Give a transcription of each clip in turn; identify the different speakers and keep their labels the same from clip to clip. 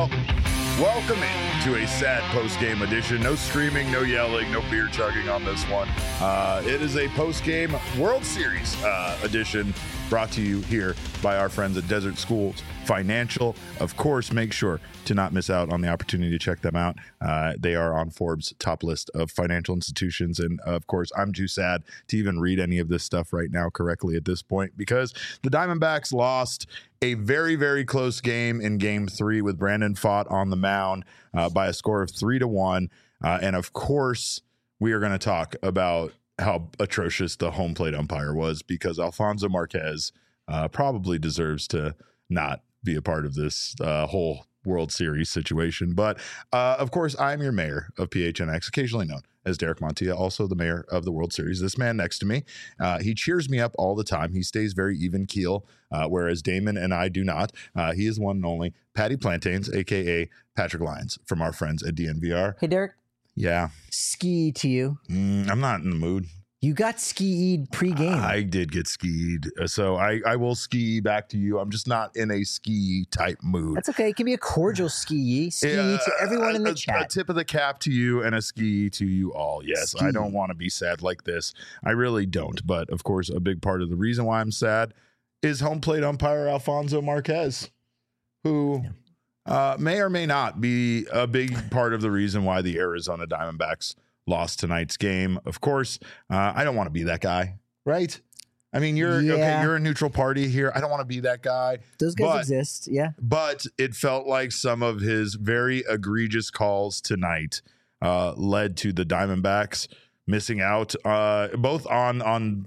Speaker 1: Well, welcome to a sad post-game edition. No screaming, no yelling, no beer chugging on this one. It is a post-game World Series edition brought to you here by our friends at Desert Schools Financial. Of course, make sure to not miss out on the opportunity to check them out. They are on Forbes' top list of financial institutions. And of course, I'm too sad to even read any of this stuff right now correctly at this point because the Diamondbacks lost a very, very close game in Game 3 with Brandon Pfaadt on the mound by a score of 3-1. And of course, we are going to talk about how atrocious the home plate umpire was because Alfonso Marquez probably deserves to not be a part of this whole World Series situation. But of course, I'm your mayor of PHNX, occasionally known as Derek Montilla, also the mayor of the World Series. This man next to me, he cheers me up all the time. He stays very even keel, whereas Damon and I do not. He is one and only Patty Plantains, a.k.a. Patrick Lyons from our friends at DNVR.
Speaker 2: Hey, Derek.
Speaker 1: Yeah.
Speaker 2: Ski to you.
Speaker 1: I'm not in the mood.
Speaker 2: You got skied pre-game.
Speaker 1: I did get skied, so I will ski back to you. I'm just not in a ski type mood.
Speaker 2: That's okay. It can be a cordial ski to everyone in the chat.
Speaker 1: A tip of the cap to you and a ski to you all. Yes,
Speaker 2: Ski.
Speaker 1: I don't want to be sad like this. I really don't. But of course, a big part of the reason why I'm sad is home plate umpire Alfonso Marquez, who may or may not be a big part of the reason why the Arizona Diamondbacks lost tonight's game. Of course, I don't want to be that guy, right? I mean, you're okay. You're a neutral party here. I don't want to be that guy.
Speaker 2: Those guys exist, yeah.
Speaker 1: But it felt like some of his very egregious calls tonight led to the Diamondbacks missing out, both on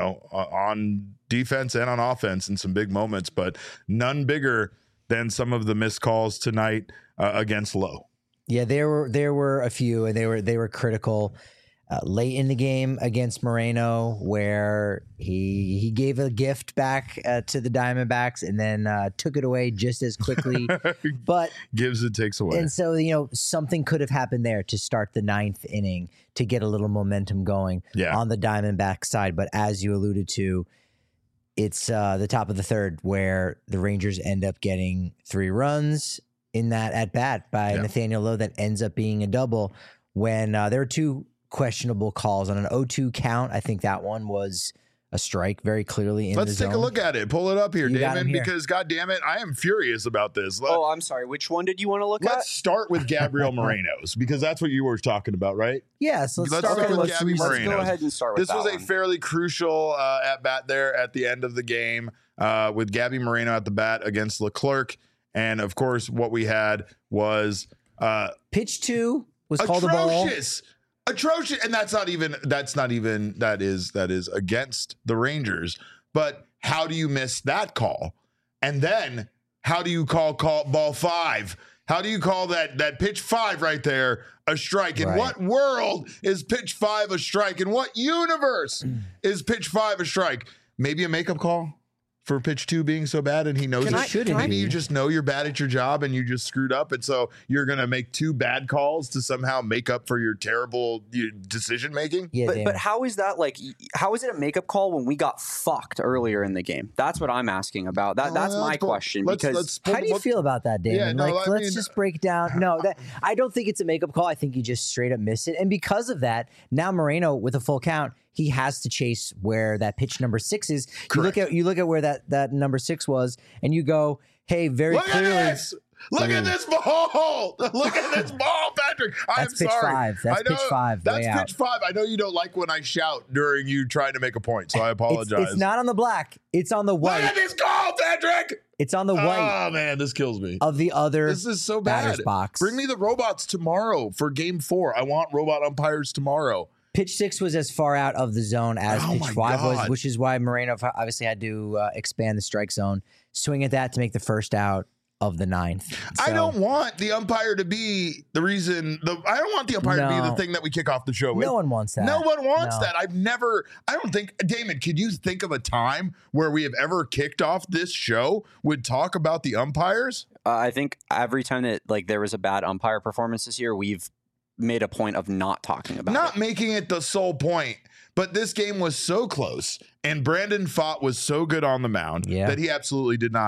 Speaker 1: defense and on offense in some big moments, but none bigger than some of the missed calls tonight against Lowe.
Speaker 2: Yeah, there were a few, and they were critical late in the game against Moreno, where he gave a gift back to the Diamondbacks and then took it away just as quickly. But
Speaker 1: gives and takes away,
Speaker 2: and so something could have happened there to start the ninth inning to get a little momentum going on the Diamondback side. But as you alluded to, it's the top of the third where the Rangers end up getting 3 runs in that at bat by Nathaniel Lowe that ends up being a double when there were 2 questionable calls on an 0-2 count. I think that one was a strike very clearly in the zone.
Speaker 1: Let's take a look at it. Pull it up here, Damon, because God damn it, I am furious about this.
Speaker 3: Oh, I'm sorry. Which one did you want to look at?
Speaker 1: Let's start with Gabriel Moreno's because that's what you were talking about, right?
Speaker 2: Yeah, so let's
Speaker 1: start with Gabby Moreno's.
Speaker 3: Let's go ahead and start with
Speaker 1: this. This was a fairly crucial at bat there at the end of the game with Gabby Moreno at the bat against Leclerc. And of course, what we had was
Speaker 2: pitch 2 was called a ball.
Speaker 1: Atrocious. And that is against the Rangers. But how do you miss that call? And then how do you call ball 5? How do you call that pitch 5 right there a strike? In what world is pitch 5 a strike? In what universe is pitch 5 a strike? Maybe a makeup call for pitch 2 being so bad, and he knows it. Maybe you just know you're bad at your job and you just screwed up, and so you're going to make 2 bad calls to somehow make up for your terrible decision making.
Speaker 2: Yeah,
Speaker 3: but how is that how is it a makeup call when we got fucked earlier in the game? That's what I'm asking about. That's my question.
Speaker 2: How do you feel about that, Damon? Let's just break down. No, I don't think it's a makeup call. I think you just straight up missed it, and because of that, now Moreno with a full count, he has to chase where that pitch number 6 is.
Speaker 1: Correct.
Speaker 2: You look at where that number 6 was, and you go, "Hey, very clearly."
Speaker 1: Look at this ball! Look at this ball, Patrick.
Speaker 2: That's pitch 5. That's pitch 5.
Speaker 1: That's pitch 5. I know you don't like when I shout during you trying to make a point, so I apologize.
Speaker 2: It's not on the black. It's on the white.
Speaker 1: Look at this call, Patrick!
Speaker 2: It's on the white.
Speaker 1: Oh, man, this kills me.
Speaker 2: Of the other
Speaker 1: This is so bad.
Speaker 2: batter's box.
Speaker 1: Bring me the robots tomorrow for Game 4. I want robot umpires tomorrow.
Speaker 2: Pitch 6 was as far out of the zone as pitch 5 was, which is why Moreno obviously had to expand the strike zone, swing at that to make the first out of the 9th. So,
Speaker 1: I don't want the umpire to be the reason. I don't want the umpire to be the thing that we kick off the show with.
Speaker 2: No one wants that.
Speaker 1: No one wants that. I don't think, Damon, could you think of a time where we have ever kicked off this show would talk about the umpires?
Speaker 3: I think every time that there was a bad umpire performance this year, we've made a point of not talking about
Speaker 1: not making it the sole point. But this game was so close, and Brandon Pfaadt was so good on the mound that he absolutely did not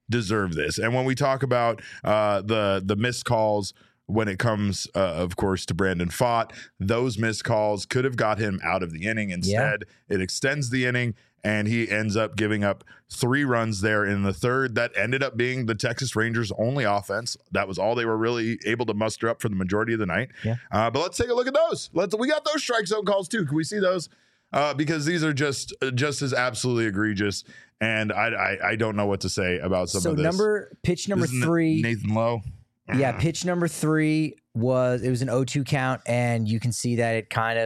Speaker 1: deserve this. And when we talk about the missed calls, when it comes, of course, to Brandon Pfaadt, those missed calls could have got him out of the inning. Instead, it extends the inning, and he ends up giving up 3 runs there in the third. That ended up being the Texas Rangers' only offense. That was all they were really able to muster up for the majority of the night.
Speaker 2: Yeah.
Speaker 1: But let's take a look at those. We got those strike zone calls too. Can we see those? Because these are just as absolutely egregious, and I don't know what to say about some of this.
Speaker 2: Pitch number 3,
Speaker 1: Nathan Lowe.
Speaker 2: Yeah, pitch number 3 was an 0-2 count, and you can see that it kind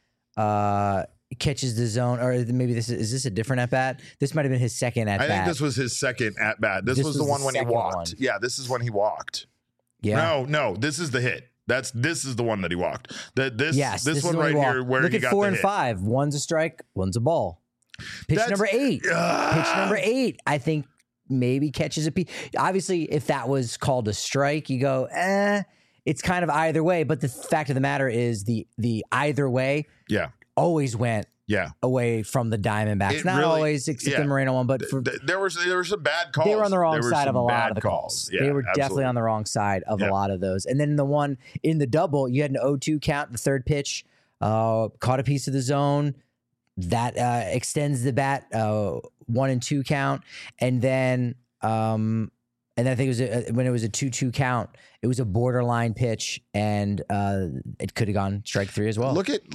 Speaker 2: of catches the zone. Or maybe is this a different at bat? This might have been his second at bat.
Speaker 1: I think this was his second at bat. This was the one when he walked. Yeah, this is when he walked.
Speaker 2: Yeah.
Speaker 1: No, this is the hit. This is the one that he walked. This one right here where
Speaker 2: look
Speaker 1: he
Speaker 2: at
Speaker 1: got
Speaker 2: 4
Speaker 1: the
Speaker 2: and
Speaker 1: hit.
Speaker 2: 5. One's a strike, one's a ball. Pitch number 8. Pitch number 8. I think maybe catches a piece. Obviously, if that was called a strike, you go, it's kind of either way. But the fact of the matter is the either way always went away from the Diamondbacks. Not really, always, except the Moreno one, but
Speaker 1: there were some bad calls.
Speaker 2: They were on the wrong side of a lot of the calls.
Speaker 1: Yeah,
Speaker 2: they were definitely on the wrong side of a lot of those. And then the one in the double, you had an 0-2 count, the third pitch, caught a piece of the zone. That extends the bat 1 and 2 count, and then I think it was when it was a 2-2 count, it was a borderline pitch, and it could have gone strike 3 as well.
Speaker 1: Look at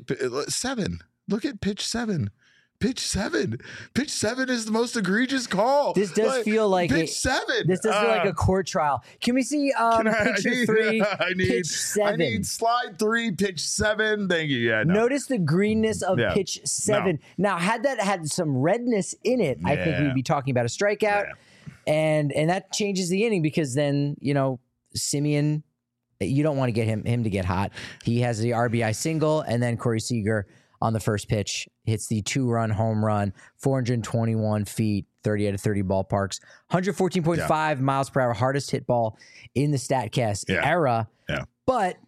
Speaker 1: 7. Look at pitch 7. Pitch 7. Pitch 7 is the most egregious call.
Speaker 2: This does feel like
Speaker 1: pitch 7.
Speaker 2: This does feel like a court trial. Can we see picture 3? Pitch 7.
Speaker 1: I need slide 3, pitch 7. Thank you. Yeah. No.
Speaker 2: Notice the greenness of pitch 7. No. Now, had that had some redness in it, I think we'd be talking about a strikeout, and that changes the inning because then Simeon, you don't want to get him to get hot. He has the RBI single, and then Corey Seager on the first pitch hits the 2-run home run, 421 feet, 30 out of 30 ballparks, 114.5 miles per hour, hardest hit ball in the StatCast era.
Speaker 1: Yeah.
Speaker 2: But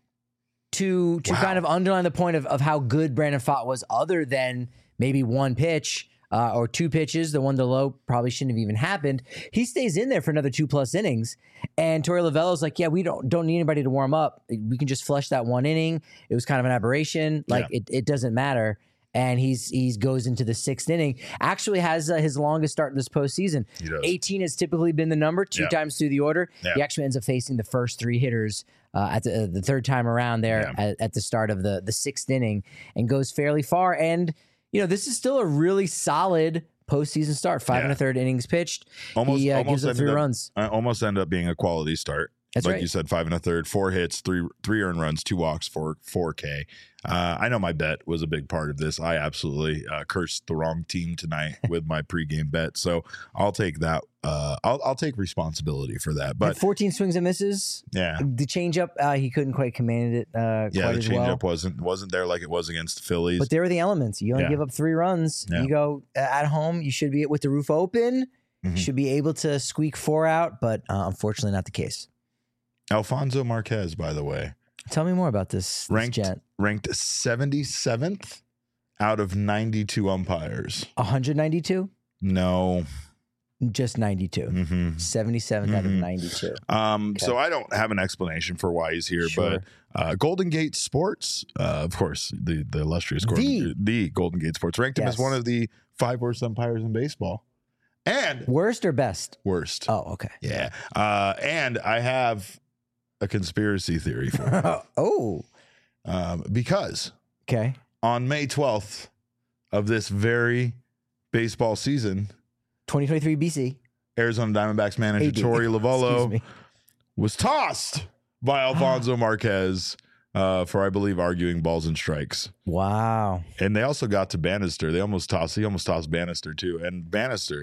Speaker 2: to kind of underline the point of how good Brandon Pfaadt was, other than maybe one pitch or 2 pitches, the one to Lowe probably shouldn't have even happened. He stays in there for another 2+ innings. And Torey Lovullo's like, we don't need anybody to warm up. We can just flush that 1 inning. It was kind of an aberration. It doesn't matter. And he's goes into the 6th inning. Actually has his longest start in this postseason. 18 has typically been the number 2 times through the order. He actually ends up facing the first 3 hitters at the third time around there at the start of the 6th inning, and goes fairly far. And this is still a really solid postseason start. 5 1/3 innings pitched. He gives up 3 runs.
Speaker 1: Almost ended up being a quality start.
Speaker 2: That's
Speaker 1: like
Speaker 2: right.
Speaker 1: You said, 5 1/3, 4 hits, 3 earned runs, 2 walks, 4K. I know my bet was a big part of this. I absolutely cursed the wrong team tonight with my pregame bet, so I'll take that. I'll take responsibility for that. But
Speaker 2: 14 swings and misses.
Speaker 1: Yeah,
Speaker 2: the changeup he couldn't quite command it.
Speaker 1: The changeup wasn't there like it was against the Phillies.
Speaker 2: But there are the elements. You only give up 3 runs. Yeah. You go at home. You should be with the roof open. You should be able to squeak 4 out, but unfortunately not the case.
Speaker 1: Alfonso Marquez, by the way.
Speaker 2: Tell me more about this gent.
Speaker 1: Ranked 77th out of 92 umpires.
Speaker 2: 192?
Speaker 1: No.
Speaker 2: Just 92. 77 out of 92.
Speaker 1: So I don't have an explanation for why he's here, but Golden Gate Sports, of course, the illustrious the Golden Gate Sports ranked him as one of the 5 worst umpires in baseball. And
Speaker 2: worst or best?
Speaker 1: Worst.
Speaker 2: Oh, okay.
Speaker 1: Yeah. And I have a conspiracy theory for
Speaker 2: you.
Speaker 1: Because on May 12th of this very baseball season,
Speaker 2: 2023 BC,
Speaker 1: Arizona Diamondbacks manager Torey Lovullo was tossed by Alfonso Marquez for, I believe, arguing balls and strikes.
Speaker 2: Wow.
Speaker 1: And they also got to Bannister. He almost tossed Bannister too. And Bannister,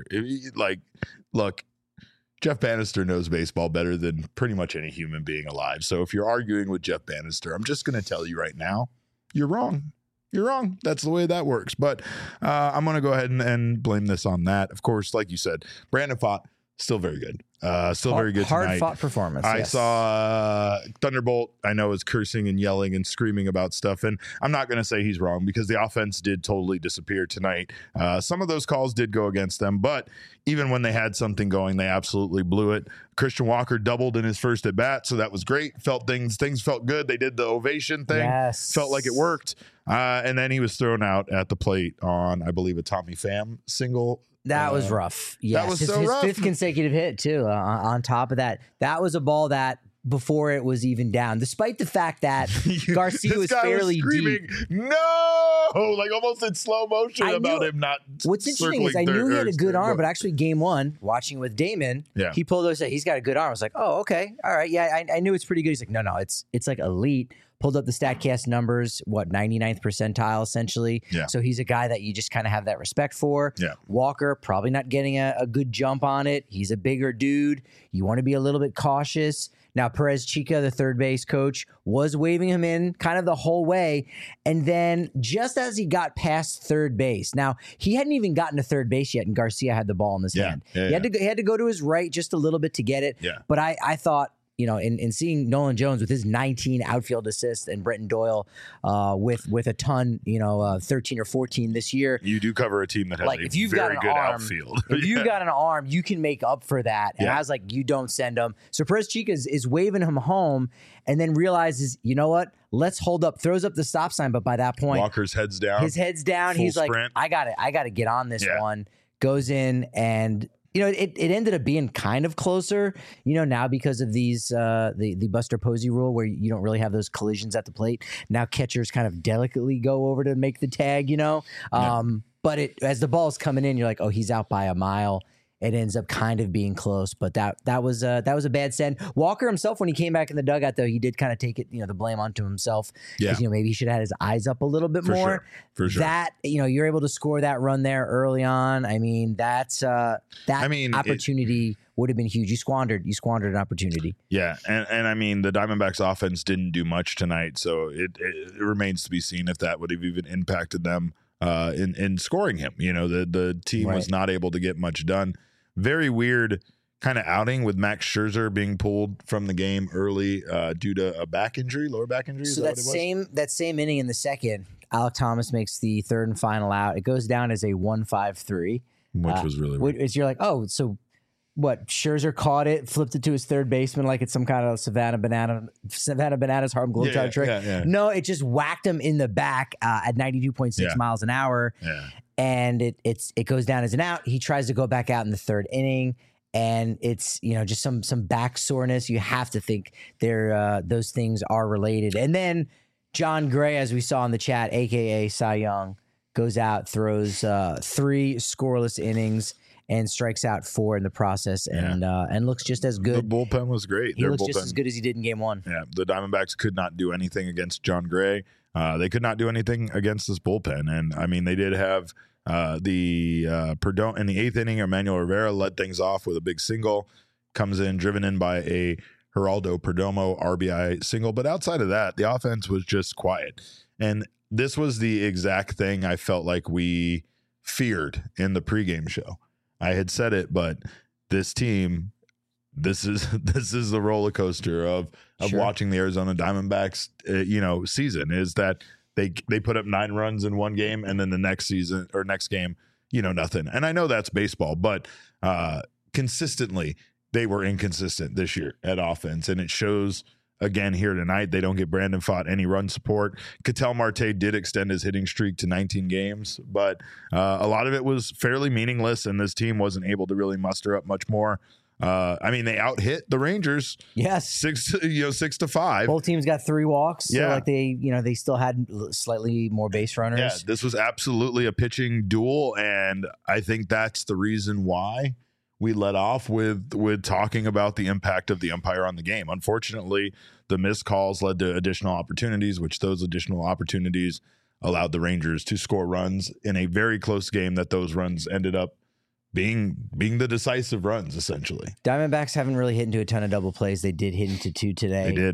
Speaker 1: look, Jeff Bannister knows baseball better than pretty much any human being alive. So if you're arguing with Jeff Bannister, I'm just going to tell you right now, you're wrong. You're wrong. That's the way that works. But I'm going to go ahead and blame this on that. Of course, like you said, Brandon Pfaadt, still very good. Still very good tonight.
Speaker 2: Hard-fought performance.
Speaker 1: I
Speaker 2: yes.
Speaker 1: saw Thunderbolt, I know, is cursing and yelling and screaming about stuff. And I'm not going to say he's wrong because the offense did totally disappear tonight. Some of those calls did go against them, but even when they had something going, they absolutely blew it. Christian Walker doubled in his first at bat, so that was great. Things felt good. They did the ovation thing.
Speaker 2: Yes.
Speaker 1: Felt like it worked. And then he was thrown out at the plate on, I believe, a Tommy Pham single.
Speaker 2: That was rough. Yes.
Speaker 1: That was
Speaker 2: his
Speaker 1: rough.
Speaker 2: Fifth consecutive hit, too. On top of that, that was a ball that before it was even down, despite the fact that Garcia was fairly deep.
Speaker 1: No, like almost in slow motion about him not.
Speaker 2: What's interesting is I knew he had a good arm, but actually game one, watching with Damon, he pulled those. He's got a good arm. I was like, oh, okay, all right, yeah, I knew it's pretty good. He's like, no, it's like elite. Pulled up the StatCast numbers, 99th percentile essentially.
Speaker 1: Yeah.
Speaker 2: So he's a guy that you just kind of have that respect for.
Speaker 1: Yeah.
Speaker 2: Walker probably not getting a good jump on it. He's a bigger dude. You want to be a little bit cautious. Now, Perez Chica, the third base coach, was waving him in kind of the whole way. And then just as he got past third base, now he hadn't even gotten to third base yet, and Garcia had the ball in his hand. He had to go to his right just a little bit to get it.
Speaker 1: Yeah.
Speaker 2: But I thought, in seeing Nolan Jones with his 19 outfield assists and Brenton Doyle with a ton, 13 or 14 this year.
Speaker 1: You do cover a team that has
Speaker 2: if you've got an
Speaker 1: good
Speaker 2: arm,
Speaker 1: outfield.
Speaker 2: If you've got an arm, you can make up for that. And I was like, you don't send him. So Perez Chica is waving him home and then realizes, you know what? Let's hold up, throws up the stop sign. But by that point,
Speaker 1: Walker's head's down.
Speaker 2: His head's down. He's
Speaker 1: sprint.
Speaker 2: Like, I got to get on this one. Goes in and it ended up being kind of closer, now because of these the Buster Posey rule where you don't really have those collisions at the plate. Now catchers kind of delicately go over to make the tag, But as the ball's coming in, you're like, oh, he's out by a mile. It ends up kind of being close, but that was a bad send. Walker himself, when he came back in the dugout, though, he did kind of take it, the blame onto himself.
Speaker 1: Yeah.
Speaker 2: Maybe he should have had his eyes up a little bit more.
Speaker 1: For sure.
Speaker 2: That, you're able to score that run there early on. I mean, opportunity would have been huge. You squandered an opportunity.
Speaker 1: Yeah, and I mean, the Diamondbacks offense didn't do much tonight, so it remains to be seen if that would have even impacted them in scoring him. The team was not able to get much done. Very weird kind of outing with Max Scherzer being pulled from the game early due to a lower back injury.
Speaker 2: So that same inning in the second, Alek Thomas makes the third and final out. It goes down as a 1-5-3,
Speaker 1: which was really weird.
Speaker 2: You're like, oh, so what? Scherzer caught it, flipped it to his third baseman like it's some kind of Savannah Bananas Harlem Globetrotter trick.
Speaker 1: Yeah.
Speaker 2: No, it just whacked him in the back at 92.6 miles an hour.
Speaker 1: Yeah.
Speaker 2: And it goes down as an out. He tries to go back out in the third inning, and it's just some back soreness. You have to think those things are related. And then John Gray, as we saw in the chat, aka Cy Young, goes out, throws 3 scoreless innings, and strikes out 4 in the process, and looks just as good.
Speaker 1: The bullpen was great.
Speaker 2: He looks just as good as he did in game one.
Speaker 1: Yeah, the Diamondbacks could not do anything against John Gray. They could not do anything against this bullpen. And, I mean, they did have the Perdomo in the 8th inning. Emmanuel Rivera led things off with a big single, comes in, driven in by a Geraldo Perdomo RBI single. But outside of that, the offense was just quiet. And this was the exact thing I felt like we feared in the pregame show. I had said it, but this team, this is the roller coaster of watching the Arizona Diamondbacks, season, is that they put up 9 runs in one game, and then the next game, nothing. And I know that's baseball, but consistently they were inconsistent this year at offense, and it shows again here tonight. They don't get Brandon Pfaadt any run support. Ketel Marte did extend his hitting streak to 19 games, but a lot of it was fairly meaningless, and this team wasn't able to really muster up much more. I mean, they out-hit the Rangers.
Speaker 2: Yes,
Speaker 1: 6-5.
Speaker 2: Both teams got 3 walks. So
Speaker 1: yeah,
Speaker 2: they still had slightly more base runners.
Speaker 1: Yeah, this was absolutely a pitching duel, and I think that's the reason why we let off with talking about the impact of the umpire on the game. Unfortunately, the missed calls led to additional opportunities, which those additional opportunities allowed the Rangers to score runs in a very close game that those runs ended up being the decisive runs, essentially.
Speaker 2: Diamondbacks haven't really hit into a ton of double plays. They did hit into 2 today.
Speaker 1: They did.
Speaker 2: That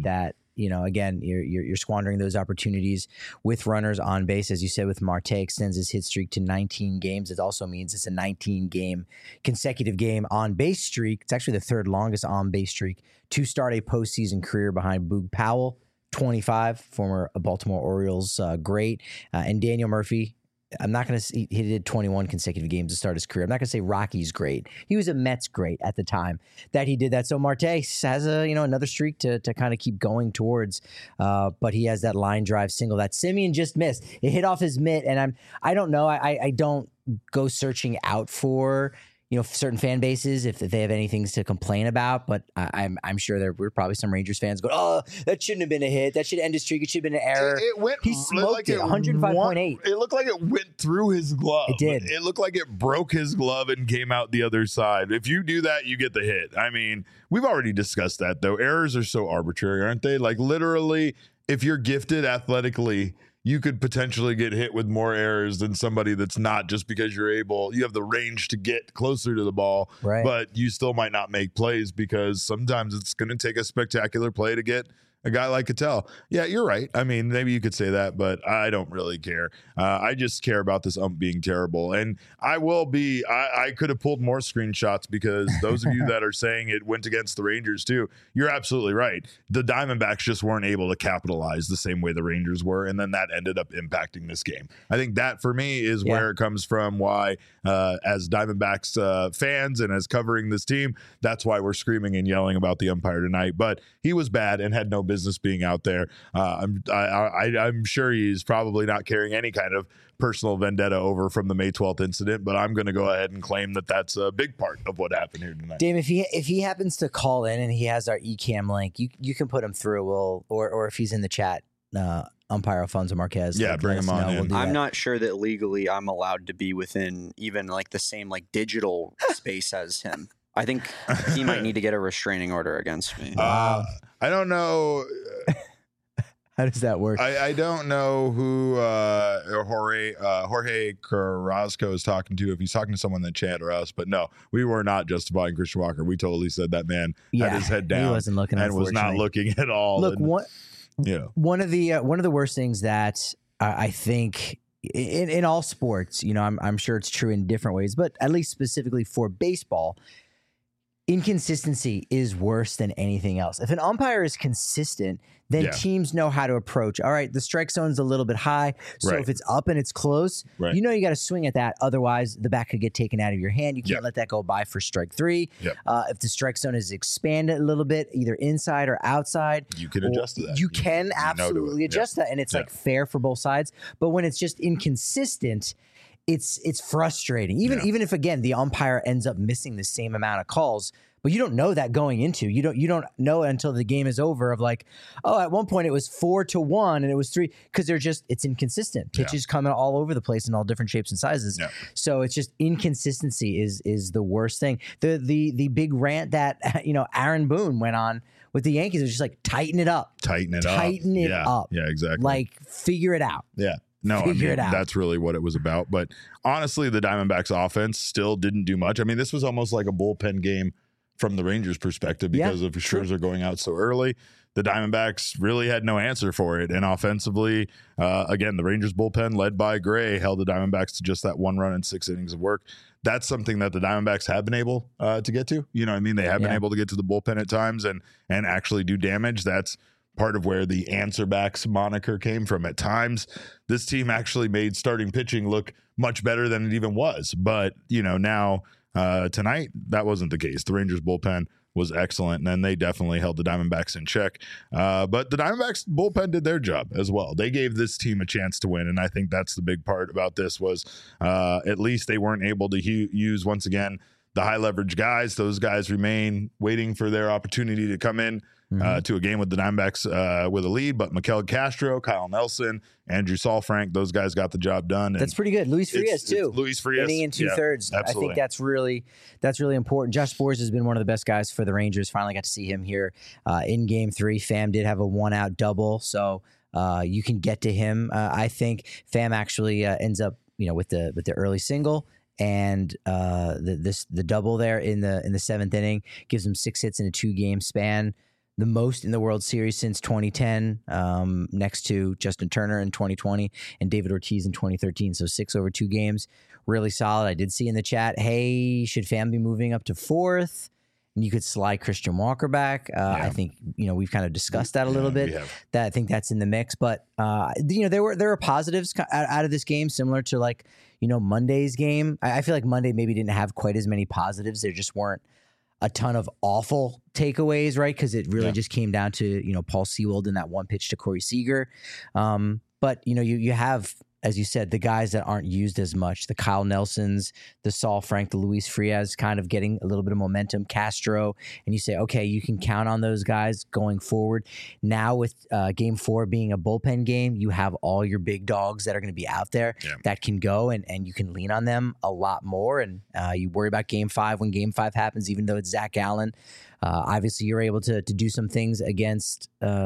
Speaker 2: again, you're squandering those opportunities with runners on base. As you said, with Marte, extends his hit streak to 19 games. It also means it's a 19-game consecutive game on base streak. It's actually the third longest on base streak to start a postseason career behind Boog Powell, 25, former Baltimore Orioles great, and Daniel Murphy. I'm not going to say he did 21 consecutive games to start his career. I'm not going to say Rocky's great. He was a Mets great at the time that he did that. So Marte has another streak to kind of keep going towards. But he has that line drive single that Semien just missed. It hit off his mitt, and I don't know. I don't go searching out for certain fan bases if they have anything to complain about, but I'm sure there were probably some Rangers fans going, "Oh, that shouldn't have been a hit. That should end a streak. It should have been an error." He smoked it, 105.8.
Speaker 1: It looked like it went through his glove.
Speaker 2: It did.
Speaker 1: It looked like it broke his glove and came out the other side. If you do that, you get the hit. I mean, we've already discussed that, though. Errors are so arbitrary, aren't they? Like, literally, if you're gifted athletically, you could potentially get hit with more errors than somebody that's not, just because you have the range to get closer to the ball,
Speaker 2: right?
Speaker 1: But you still might not make plays because sometimes it's going to take a spectacular play to get a guy like Ketel. Yeah, you're right. I mean, maybe you could say that, but I don't really care. I just care about this ump being terrible. And I could have pulled more screenshots, because those of you that are saying it went against the Rangers too, you're absolutely right. The Diamondbacks just weren't able to capitalize the same way the Rangers were, and then that ended up impacting this game. I think that, for me, is where it comes from, why as Diamondbacks fans and as covering this team, that's why we're screaming and yelling about the umpire tonight. But he was bad and had no business being out there. I'm sure he's probably not carrying any kind of personal vendetta over from the May 12th incident, but I'm going to go ahead and claim that that's a big part of what happened here tonight.
Speaker 2: Dave, if he happens to call in and he has our eCam link, you can put him through. Or if he's in the chat, umpire Alfonso Marquez.
Speaker 1: Yeah, bring him on in.
Speaker 3: I'm not sure that legally I'm allowed to be within even like the same digital space as him. I think he might need to get a restraining order against me.
Speaker 1: I don't know.
Speaker 2: How does that work?
Speaker 1: I don't know who Jorge Carrasco is talking to, if he's talking to someone in the chat or us. But no, we were not justifying Christian Walker. We totally said that man had his head down.
Speaker 2: He wasn't looking,
Speaker 1: and was not looking at all.
Speaker 2: Look, one of the worst things that I think in all sports, I'm sure it's true in different ways, but at least specifically for baseball, inconsistency is worse than anything else. If an umpire is consistent, then teams know how to approach. All right, the strike zone's a little bit high, so if it's up and it's close, you got to swing at that. Otherwise, the bat could get taken out of your hand. You can't let that go by for strike three. If the strike zone is expanded a little bit, either inside or outside,
Speaker 1: you can adjust to that.
Speaker 2: You can absolutely adjust that, and it's fair for both sides. But when it's just inconsistent, it's frustrating. Even if, again, the umpire ends up missing the same amount of calls, but you don't know that going into. You don't know until the game is over of at one point it was 4-1 and it was 3, because it's inconsistent. Pitches coming all over the place in all different shapes and sizes. So it's just inconsistency is the worst thing. The big rant that Aaron Boone went on with the Yankees was just tighten it up.
Speaker 1: Tighten it up. Yeah, exactly.
Speaker 2: Figure it out.
Speaker 1: Yeah. No, that's really what it was about. But honestly, the Diamondbacks offense still didn't do much. I mean, this was almost like a bullpen game from the Rangers' perspective, because of Scherzer going out so early. The Diamondbacks really had no answer for it. And offensively, again, the Rangers bullpen led by Gray held the Diamondbacks to just that 1 run in 6 innings of work. That's something that the Diamondbacks have been able to get to. You know what I mean? They have been able to get to the bullpen at times and actually do damage. That's part of where the answer backs moniker came from. At times, this team actually made starting pitching look much better than it even was. But, now tonight, that wasn't the case. The Rangers bullpen was excellent, and then they definitely held the Diamondbacks in check. But the Diamondbacks bullpen did their job as well. They gave this team a chance to win, and I think that's the big part about this was at least they weren't able to use, once again, the high leverage guys. Those guys remain waiting for their opportunity to come in to a game with the Diamondbacks with a lead. But Miguel Castro, Kyle Nelson, Andrew Saalfrank, those guys got the job done.
Speaker 2: That's pretty good. Luis Frias too.
Speaker 1: Luis Frias
Speaker 2: inning in 2/3. I think that's really important. Josh Sborz has been one of the best guys for the Rangers. Finally got to see him here in Game 3. Pham did have a 1-out double, so you can get to him. I think Pham actually ends up with the early single. And the double there in the 7th inning gives him 6 hits in a 2-game span. the most in the World Series since 2010, next to Justin Turner in 2020 and David Ortiz in 2013. So 6 over 2 games, really solid. I did see in the chat, hey, should Pham be moving up to 4th? And you could slide Christian Walker back. I think we've kind of discussed that a little bit. That I think that's in the mix. But there were positives out of this game, similar to like Monday's game. I feel like Monday maybe didn't have quite as many positives. There just weren't a ton of awful takeaways, right? Because it really just came down to Paul Sewald and that one pitch to Corey Seager. But you have, as you said, the guys that aren't used as much, the Kyle Nelsons, the Saul Frank, the Luis Frias, kind of getting a little bit of momentum, Castro, and you say, okay, you can count on those guys going forward. Now with Game 4 being a bullpen game, you have all your big dogs that are going to be out there that can go, and you can lean on them a lot more. And you worry about Game 5 when Game 5 happens, even though it's Zach Allen. Obviously, you're able to do some things against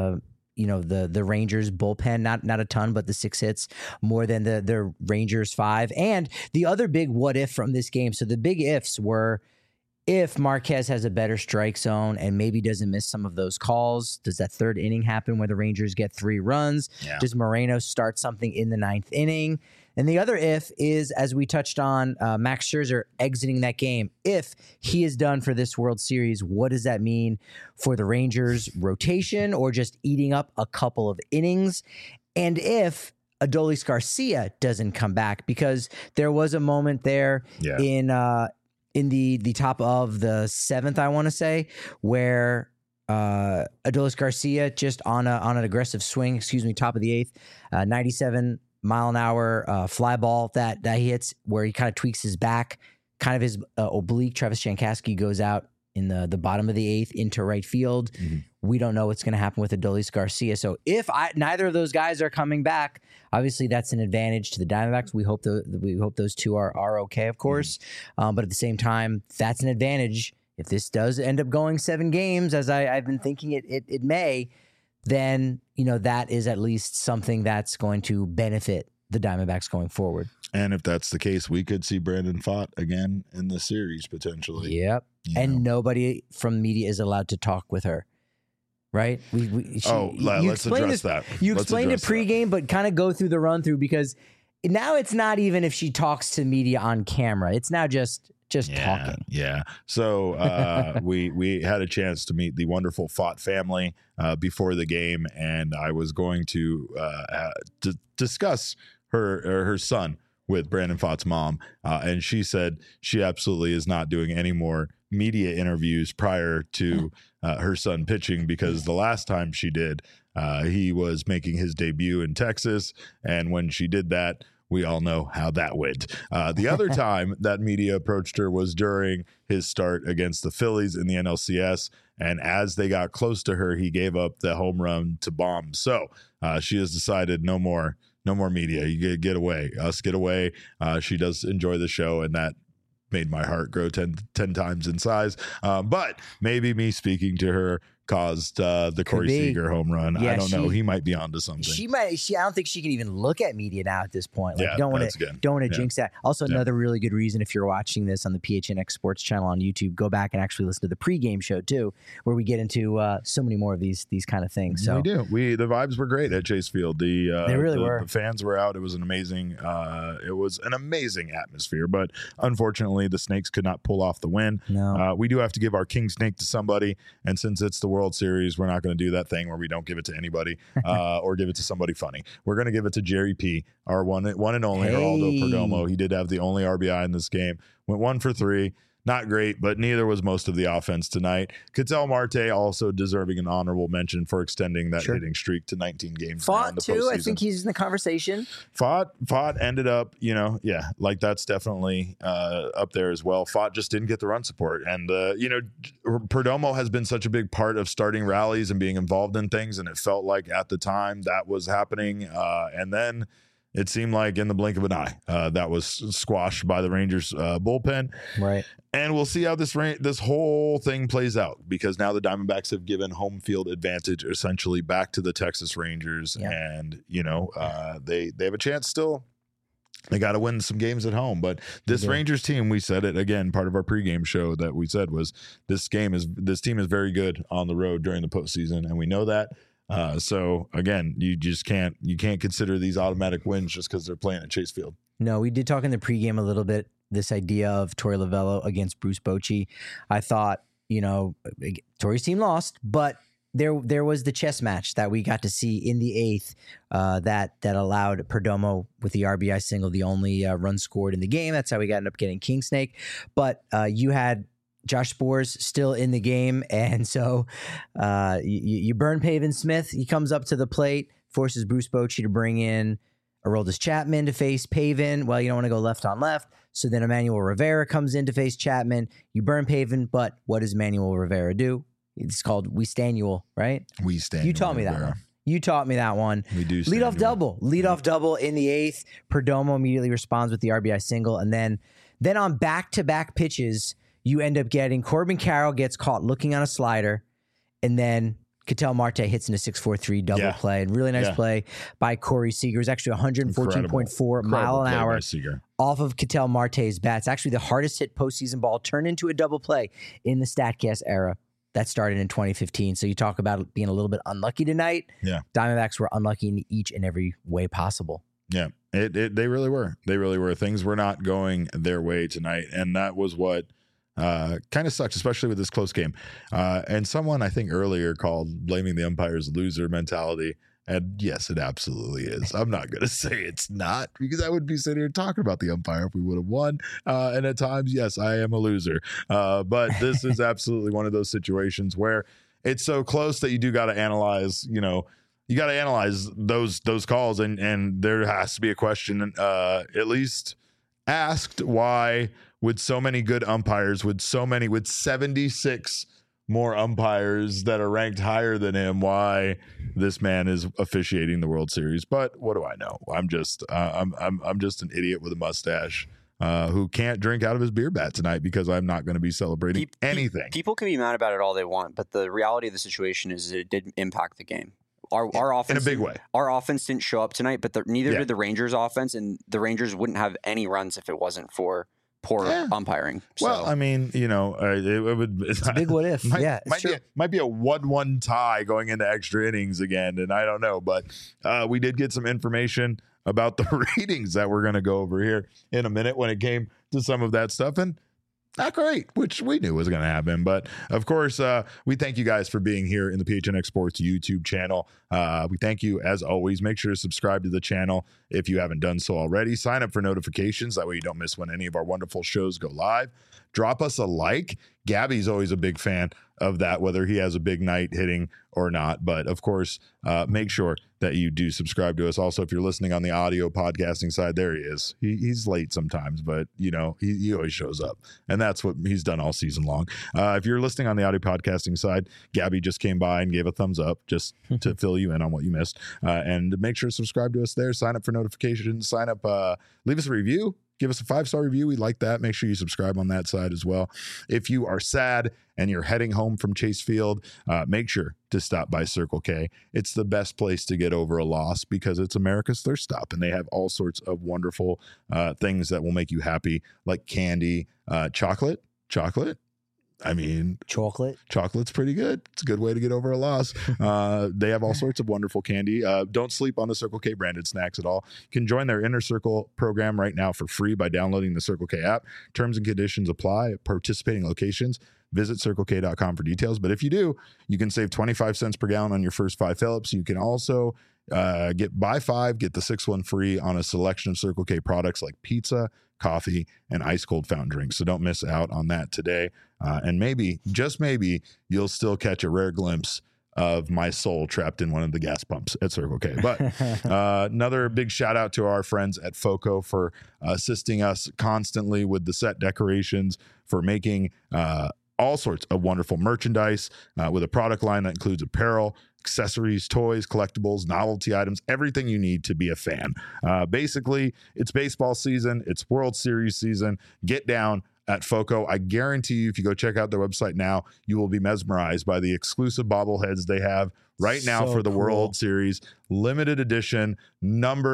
Speaker 2: the Rangers bullpen, not a ton, but the 6 hits more than the Rangers 5. And the other big what if from this game. So the big ifs were, if Marquez has a better strike zone and maybe doesn't miss some of those calls, does that 3rd inning happen where the Rangers get 3 runs? Yeah. Does Moreno start something in the 9th inning? And the other if is, as we touched on, Max Scherzer exiting that game. If he is done for this World Series, what does that mean for the Rangers' rotation or just eating up a couple of innings? And if Adolis Garcia doesn't come back, because there was a moment there in the top of the 7th, I want to say, where Adolis Garcia just on an aggressive swing, top of the 8th, 97 mile an hour fly ball that he hits, where he kind of tweaks his back, kind of his oblique. Travis Jankowski goes out in the bottom of the 8th into right field. Mm-hmm. We don't know what's going to happen with Adolis Garcia. So if neither of those guys are coming back, obviously that's an advantage to the Diamondbacks. We hope those two are okay, of course. Mm-hmm. But at the same time, that's an advantage. If this does end up going 7 games, as I've been thinking it may, then that is at least something that's going to benefit the Diamondbacks going forward.
Speaker 1: And if that's the case, we could see Brandon Pfaadt again in the series potentially.
Speaker 2: Yep. And nobody from media is allowed to talk with her, right?
Speaker 1: Let's address that.
Speaker 2: You explained it pregame, but kind of go through the run through, because now it's not even if she talks to media on camera. It's now just talking.
Speaker 1: Yeah. So we had a chance to meet the wonderful Pfaadt family before the game, and I was going to discuss her son with Brandon Pfaadt's mom, and she said she absolutely is not doing any more media interviews prior to her son pitching, because the last time she did, he was making his debut in Texas, and when she did that, we all know how that went. The other time that media approached her was during his start against the Phillies in the NLCS. And as they got close to her, he gave up the home run to Bomb. So she has decided no more media. You get away. Us get away. She does enjoy the show, and that made my heart grow 10 times in size. But maybe me speaking to her caused the Corey Seager home run. Yeah, I don't know. He might be onto something.
Speaker 2: She might. I don't think she can even look at media now at this point. Like, don't want to jinx that. Also, another really good reason, if you're watching this on the PHNX Sports channel on YouTube, go back and actually listen to the pregame show too, where we get into so many more of these kind of things. So
Speaker 1: we do. The vibes were great at Chase Field. They really were. The fans were out. It was an amazing atmosphere. But unfortunately, the Snakes could not pull off the win.
Speaker 2: No.
Speaker 1: We do have to give our King Snake to somebody, and since it's the World Series, we're not going to do that thing where we don't give it to anybody or give it to somebody funny. We're going to give it to Jerry P, our one and only Geraldo Perdomo. He did have the only RBI in this game. Went 1 for 3. Not great, but neither was most of the offense tonight. Ketel Marte also deserving an honorable mention for extending that hitting streak to 19 games.
Speaker 2: Pfaadt too. I think he's in the conversation.
Speaker 1: Pfaadt ended up, that's definitely up there as well. Pfaadt just didn't get the run support, and Perdomo has been such a big part of starting rallies and being involved in things, and it felt like at the time that was happening, and then it seemed like in the blink of an eye, that was squashed by the Rangers bullpen.
Speaker 2: Right.
Speaker 1: And we'll see how this whole thing plays out, because now the Diamondbacks have given home field advantage essentially back to the Texas Rangers. Yeah. And, they have a chance still They got to win some games at home. But this Rangers team, we said it again, part of our pregame show that we said was this team is very good on the road during the postseason, and we know that. So again, you can't consider these automatic wins just because they're playing at Chase Field.
Speaker 2: No, we did talk in the pregame a little bit, this idea of Torey Lovullo against Bruce Bochy. I thought, Torey's team lost, but there was the chess match that we got to see in the eighth that allowed Perdomo with the RBI single, the only run scored in the game. That's how we ended up getting King Snake. But you had Josh Sborz still in the game, and so you burn Pavin Smith. He comes up to the plate, forces Bruce Bochy to bring in Aroldis Chapman to face Pavin. Well, you don't want to go left on left. So then Emmanuel Rivera comes in to face Chapman. You burn Pavin, but what does Emmanuel Rivera do? It's called We Stanual, right?
Speaker 1: We Stanual.
Speaker 2: You taught me that one. You taught me that one.
Speaker 1: We do.
Speaker 2: Leadoff double in the eighth. Perdomo immediately responds with the RBI single. And then on back-to-back pitches, you end up getting Corbin Carroll gets caught looking on a slider. And then Ketel Marte hits in a 6-4-3 double play. And really nice play by Corey Seager. It was actually 114.4 mile an hour off of Ketel Marte's bat. It's actually the hardest hit postseason ball turned into a double play in the StatCast era. That started in 2015. So you talk about being a little bit unlucky tonight.
Speaker 1: Yeah.
Speaker 2: Diamondbacks were unlucky in each and every way possible.
Speaker 1: Yeah. They really were. They really were. Things were not going their way tonight. And that was what kind of sucks, especially with this close game. And someone I think earlier called blaming the umpires loser mentality. And yes, it absolutely is. I'm not going to say it's not, because I would be sitting here talking about the umpire if we would have won. And at times, yes, I am a loser. But this is absolutely one of those situations where it's so close that you do got to analyze, you got to analyze those calls. And there has to be a question at least asked, why with so many good umpires, with 76 more umpires that are ranked higher than him, why this man is officiating the World Series. But what do I know? I'm just an idiot with a mustache who can't drink out of his beer bat tonight because I'm not going to be celebrating anything.
Speaker 3: People can be mad about it all they want, but the reality of the situation is that it did impact the game. Our offense
Speaker 1: in a big way.
Speaker 3: Our offense didn't show up tonight, but neither did the Rangers offense, and the Rangers wouldn't have any runs if it wasn't for poor umpiring.
Speaker 1: Well, I mean, it would.
Speaker 2: It's a big what if.
Speaker 1: Might be a 1-1 tie going into extra innings again, and I don't know. But we did get some information about the ratings that we're going to go over here in a minute when it came to some of that stuff, and not great, which we knew was going to happen. But of course, we thank you guys for being here in the PHNX Sports YouTube channel. We thank you as always. Make sure to subscribe to the channel if you haven't done so already. Sign up for notifications. That way you don't miss when any of our wonderful shows go live. Drop us a like. Gabby's always a big fan of that, whether he has a big night hitting or not. But of course, make sure that you do subscribe to us. Also, if you're listening on the audio podcasting side, there he is. He's late sometimes, but he always shows up, and that's what he's done all season long. If you're listening on the audio podcasting side, Gabby just came by and gave a thumbs up just to fill you in on what you missed. And make sure to subscribe to us there. Sign up for notifications. Sign up. Leave us a review. Give us a 5-star review. We'd like that. Make sure you subscribe on that side as well. If you are sad and you're heading home from Chase Field, make sure to stop by Circle K. It's the best place to get over a loss because it's America's thirst stop, and they have all sorts of wonderful things that will make you happy, like candy, chocolate. I mean, chocolate's pretty good. It's a good way to get over a loss. They have all sorts of wonderful candy. Don't sleep on the Circle K branded snacks at all. You can join their Inner Circle program right now for free by downloading the Circle K app. Terms and conditions apply at participating locations. Visit CircleK.com for details. But if you do, you can save 25 cents per gallon on your first 5 fill-ups. You can also buy 5, get the 6th one free on a selection of Circle K products like pizza, coffee, and ice cold fountain drinks. So don't miss out on that today. And maybe, just maybe, you'll still catch a rare glimpse of my soul trapped in one of the gas pumps at Circle K. But another big shout out to our friends at FOCO for assisting us constantly with the set decorations, for making all sorts of wonderful merchandise with a product line that includes apparel, accessories, toys, collectibles, novelty items, everything you need to be a fan. Basically, it's baseball season. It's World Series season. Get down at FOCO. I guarantee you, if you go check out their website now, you will be mesmerized by the exclusive bobbleheads they have right now for the World Series. Limited edition, numbered,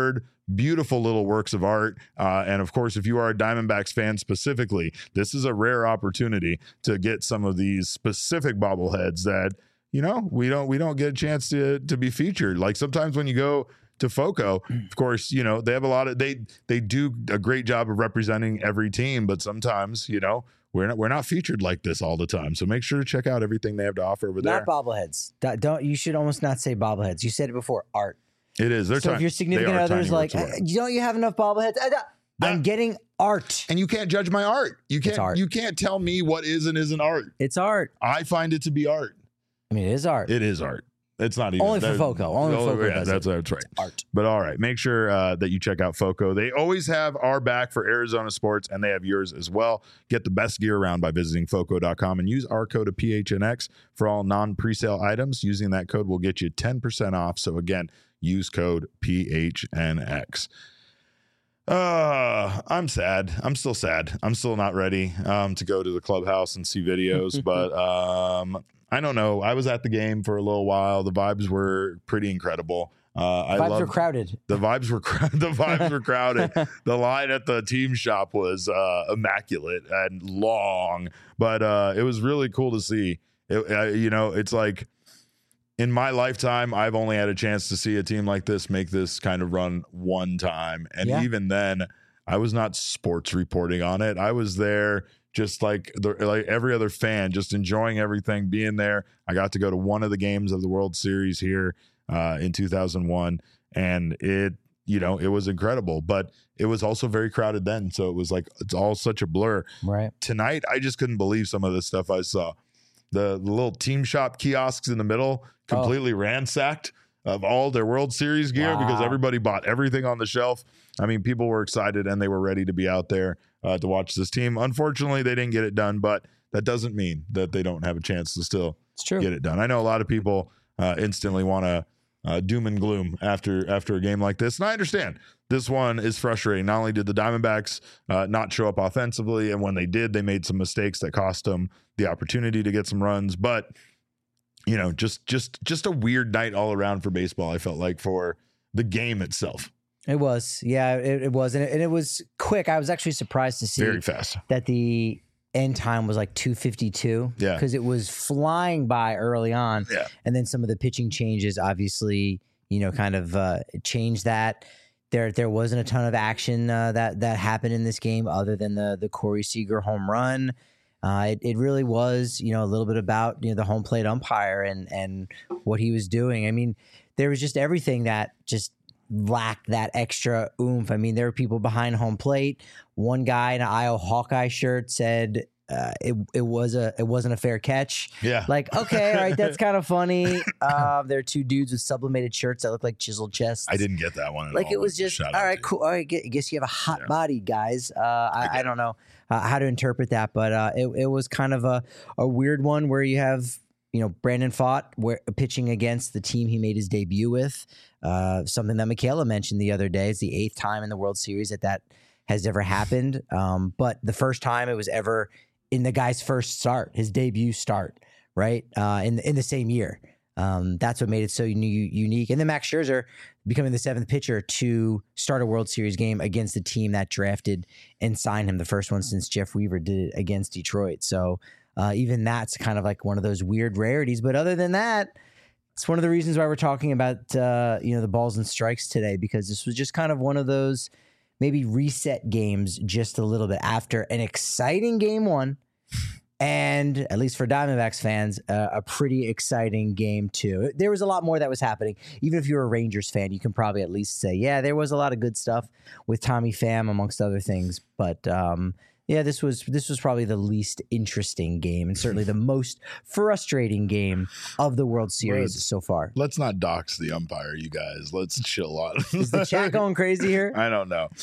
Speaker 1: beautiful little works of art. And of course, if you are a Diamondbacks fan specifically, this is a rare opportunity to get some of these specific bobbleheads that, you know, we don't get a chance to be featured. Like sometimes when you go to FOCO, of course, you know, they have a lot of, they do a great job of representing every team, but sometimes, you know, we're not featured like this all the time. So make sure to check out everything they have to offer over there.
Speaker 2: Not bobbleheads. Don't, you should almost not say bobbleheads. You said it before, art.
Speaker 1: It is.
Speaker 2: So if your significant other is like, don't you have enough bobbleheads? I'm getting art.
Speaker 1: And you can't judge my art.
Speaker 2: It's art.
Speaker 1: You can't tell me what is and isn't art.
Speaker 2: It's art.
Speaker 1: I find it to be art.
Speaker 2: I mean, it is art.
Speaker 1: It is art. It's not even
Speaker 2: only for FOCO. Only for FOCO.
Speaker 1: Yeah, that's right.
Speaker 2: Art.
Speaker 1: But all right, make sure that you check out FOCO. They always have our back for Arizona sports, and they have yours as well. Get the best gear around by visiting FOCO.com and use our code of PHNX for all non-presale items. Using that code will get you 10% off. So again, use code PHNX. I'm sad. I'm still sad. I'm still not ready to go to the clubhouse and see videos, but I don't know. I was at the game for a little while. The vibes were pretty incredible.
Speaker 2: Vibes were crowded.
Speaker 1: The vibes were crowded. The line at the team shop was immaculate and long, but it was really cool to see. You know, it's like in my lifetime, I've only had a chance to see a team like this make this kind of run one time, and even then, I was not sports reporting on it. I was there just like every other fan, just enjoying everything, being there. I got to go to one of the games of the World Series here in 2001, and it was incredible, but it was also very crowded then. So it was like, it's all such a blur.
Speaker 2: Right.
Speaker 1: Tonight, I just couldn't believe some of the stuff I saw. The little team shop kiosks in the middle, completely ransacked of all their World Series gear because everybody bought everything on the shelf. I mean, people were excited and they were ready to be out there to watch this team. Unfortunately, they didn't get it done, but that doesn't mean that they don't have a chance to still get it done. I know a lot of people instantly want to doom and gloom after a game like this, and I understand. This one is frustrating. Not only did the Diamondbacks not show up offensively, and when they did, they made some mistakes that cost them the opportunity to get some runs, but you know, just a weird night all around for baseball, I felt like, for the game itself.
Speaker 2: It was. Yeah, it was. And it was quick. I was actually surprised to see
Speaker 1: very fast
Speaker 2: that the end time was like 2:52.
Speaker 1: Yeah.
Speaker 2: Because it was flying by early on.
Speaker 1: Yeah.
Speaker 2: And then some of the pitching changes obviously, you know, kind of changed that. There wasn't a ton of action that happened in this game other than the Corey Seager home run. It really was, you know, a little bit about, you know, the home plate umpire and what he was doing. I mean, there was just everything that just lacked that extra oomph. I mean, there were people behind home plate. One guy in an Iowa Hawkeye shirt said it wasn't a fair catch.
Speaker 1: Yeah.
Speaker 2: Like, okay, all right, that's kind of funny. There are two dudes with sublimated shirts that look like chiseled chests.
Speaker 1: I didn't get that one at
Speaker 2: like
Speaker 1: all.
Speaker 2: It was just, all right, cool. All right, I guess you have a hot body, guys. I don't know how to interpret that, but it was kind of a weird one where you have, you know, Brandon Pfaadt pitching against the team he made his debut with. Something that Michaela mentioned the other day. It's the 8th time in the World Series that has ever happened. But the first time it was ever in the guy's first start, his debut start, right? In the same year. That's what made it so unique. And then Max Scherzer becoming the 7th pitcher to start a World Series game against the team that drafted and signed him, the first one since Jeff Weaver did it against Detroit. So even that's kind of like one of those weird rarities. But other than that, it's one of the reasons why we're talking about the balls and strikes today, because this was just kind of one of those maybe reset games just a little bit after an exciting game one. And at least for Diamondbacks fans, a pretty exciting game too. There was a lot more that was happening. Even if you're a Rangers fan, you can probably at least say, yeah, there was a lot of good stuff with Tommy Pham, amongst other things. But yeah, this was probably the least interesting game and certainly the most frustrating game of the World Series so far.
Speaker 1: Let's not dox the umpire, you guys. Let's chill on.
Speaker 2: Is the chat going crazy here?
Speaker 1: I don't know.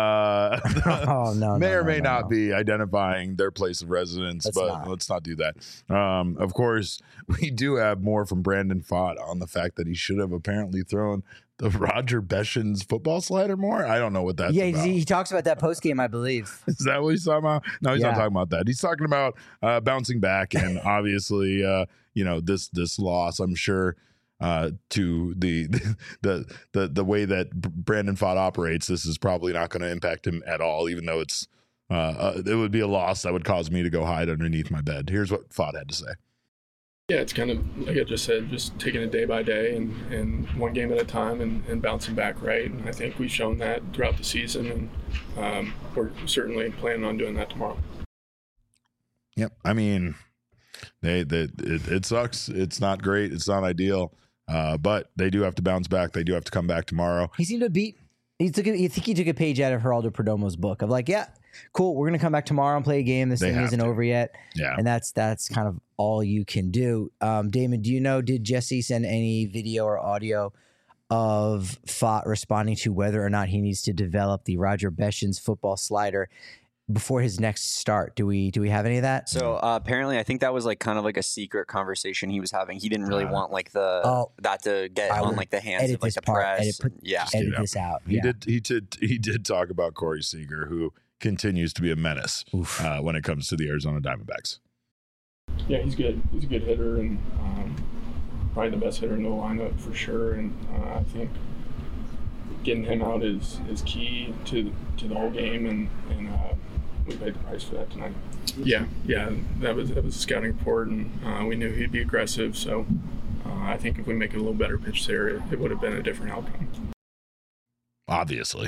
Speaker 2: No.
Speaker 1: May or may not be identifying their place of residence, let's not do that. Of course, we do have more from Brandon Pfaadt on the fact that he should have apparently thrown the Roger Beshan's football slider more. I don't know what that's about.
Speaker 2: Yeah, he talks about that post game, I believe.
Speaker 1: Is that what he's talking about? No, he's not talking about that. He's talking about bouncing back and obviously, this loss. I'm sure to the way that Brandon Pfaadt operates, this is probably not going to impact him at all, even though it would be a loss that would cause me to go hide underneath my bed. Here's what Pfaadt had to say.
Speaker 4: Yeah, it's kind of like I just said, just taking it day by day and one game at a time and bouncing back, right? And I think we've shown that throughout the season, and we're certainly planning on doing that tomorrow.
Speaker 1: Yep. I mean, it sucks. It's not great. It's not ideal. But they do have to bounce back. They do have to come back tomorrow.
Speaker 2: He seemed to beat. You think he took a page out of Geraldo Perdomo's book of like, yeah, cool, we're gonna come back tomorrow and play a game. This thing isn't over yet.
Speaker 1: Yeah,
Speaker 2: and that's kind of all you can do. Damon, do you know? Did Jesse send any video or audio of Pfaadt responding to whether or not he needs to develop the Roger Beshins football slider before his next start? Do we have any of that?
Speaker 3: So apparently, I think that was like kind of like a secret conversation he was having. He didn't really want like that to get on like the hands of like the press.
Speaker 2: Edit this out.
Speaker 1: He did talk about Corey Seager, who continues to be a menace when it comes to the Arizona Diamondbacks.
Speaker 4: Yeah, he's good. He's a good hitter and probably the best hitter in the lineup for sure. And I think getting him out is key to the whole game, and we paid the price for that tonight. Yeah, that was a scouting report, and we knew he'd be aggressive. So I think if we make a little better pitch there, it would have been a different outcome.
Speaker 1: Obviously,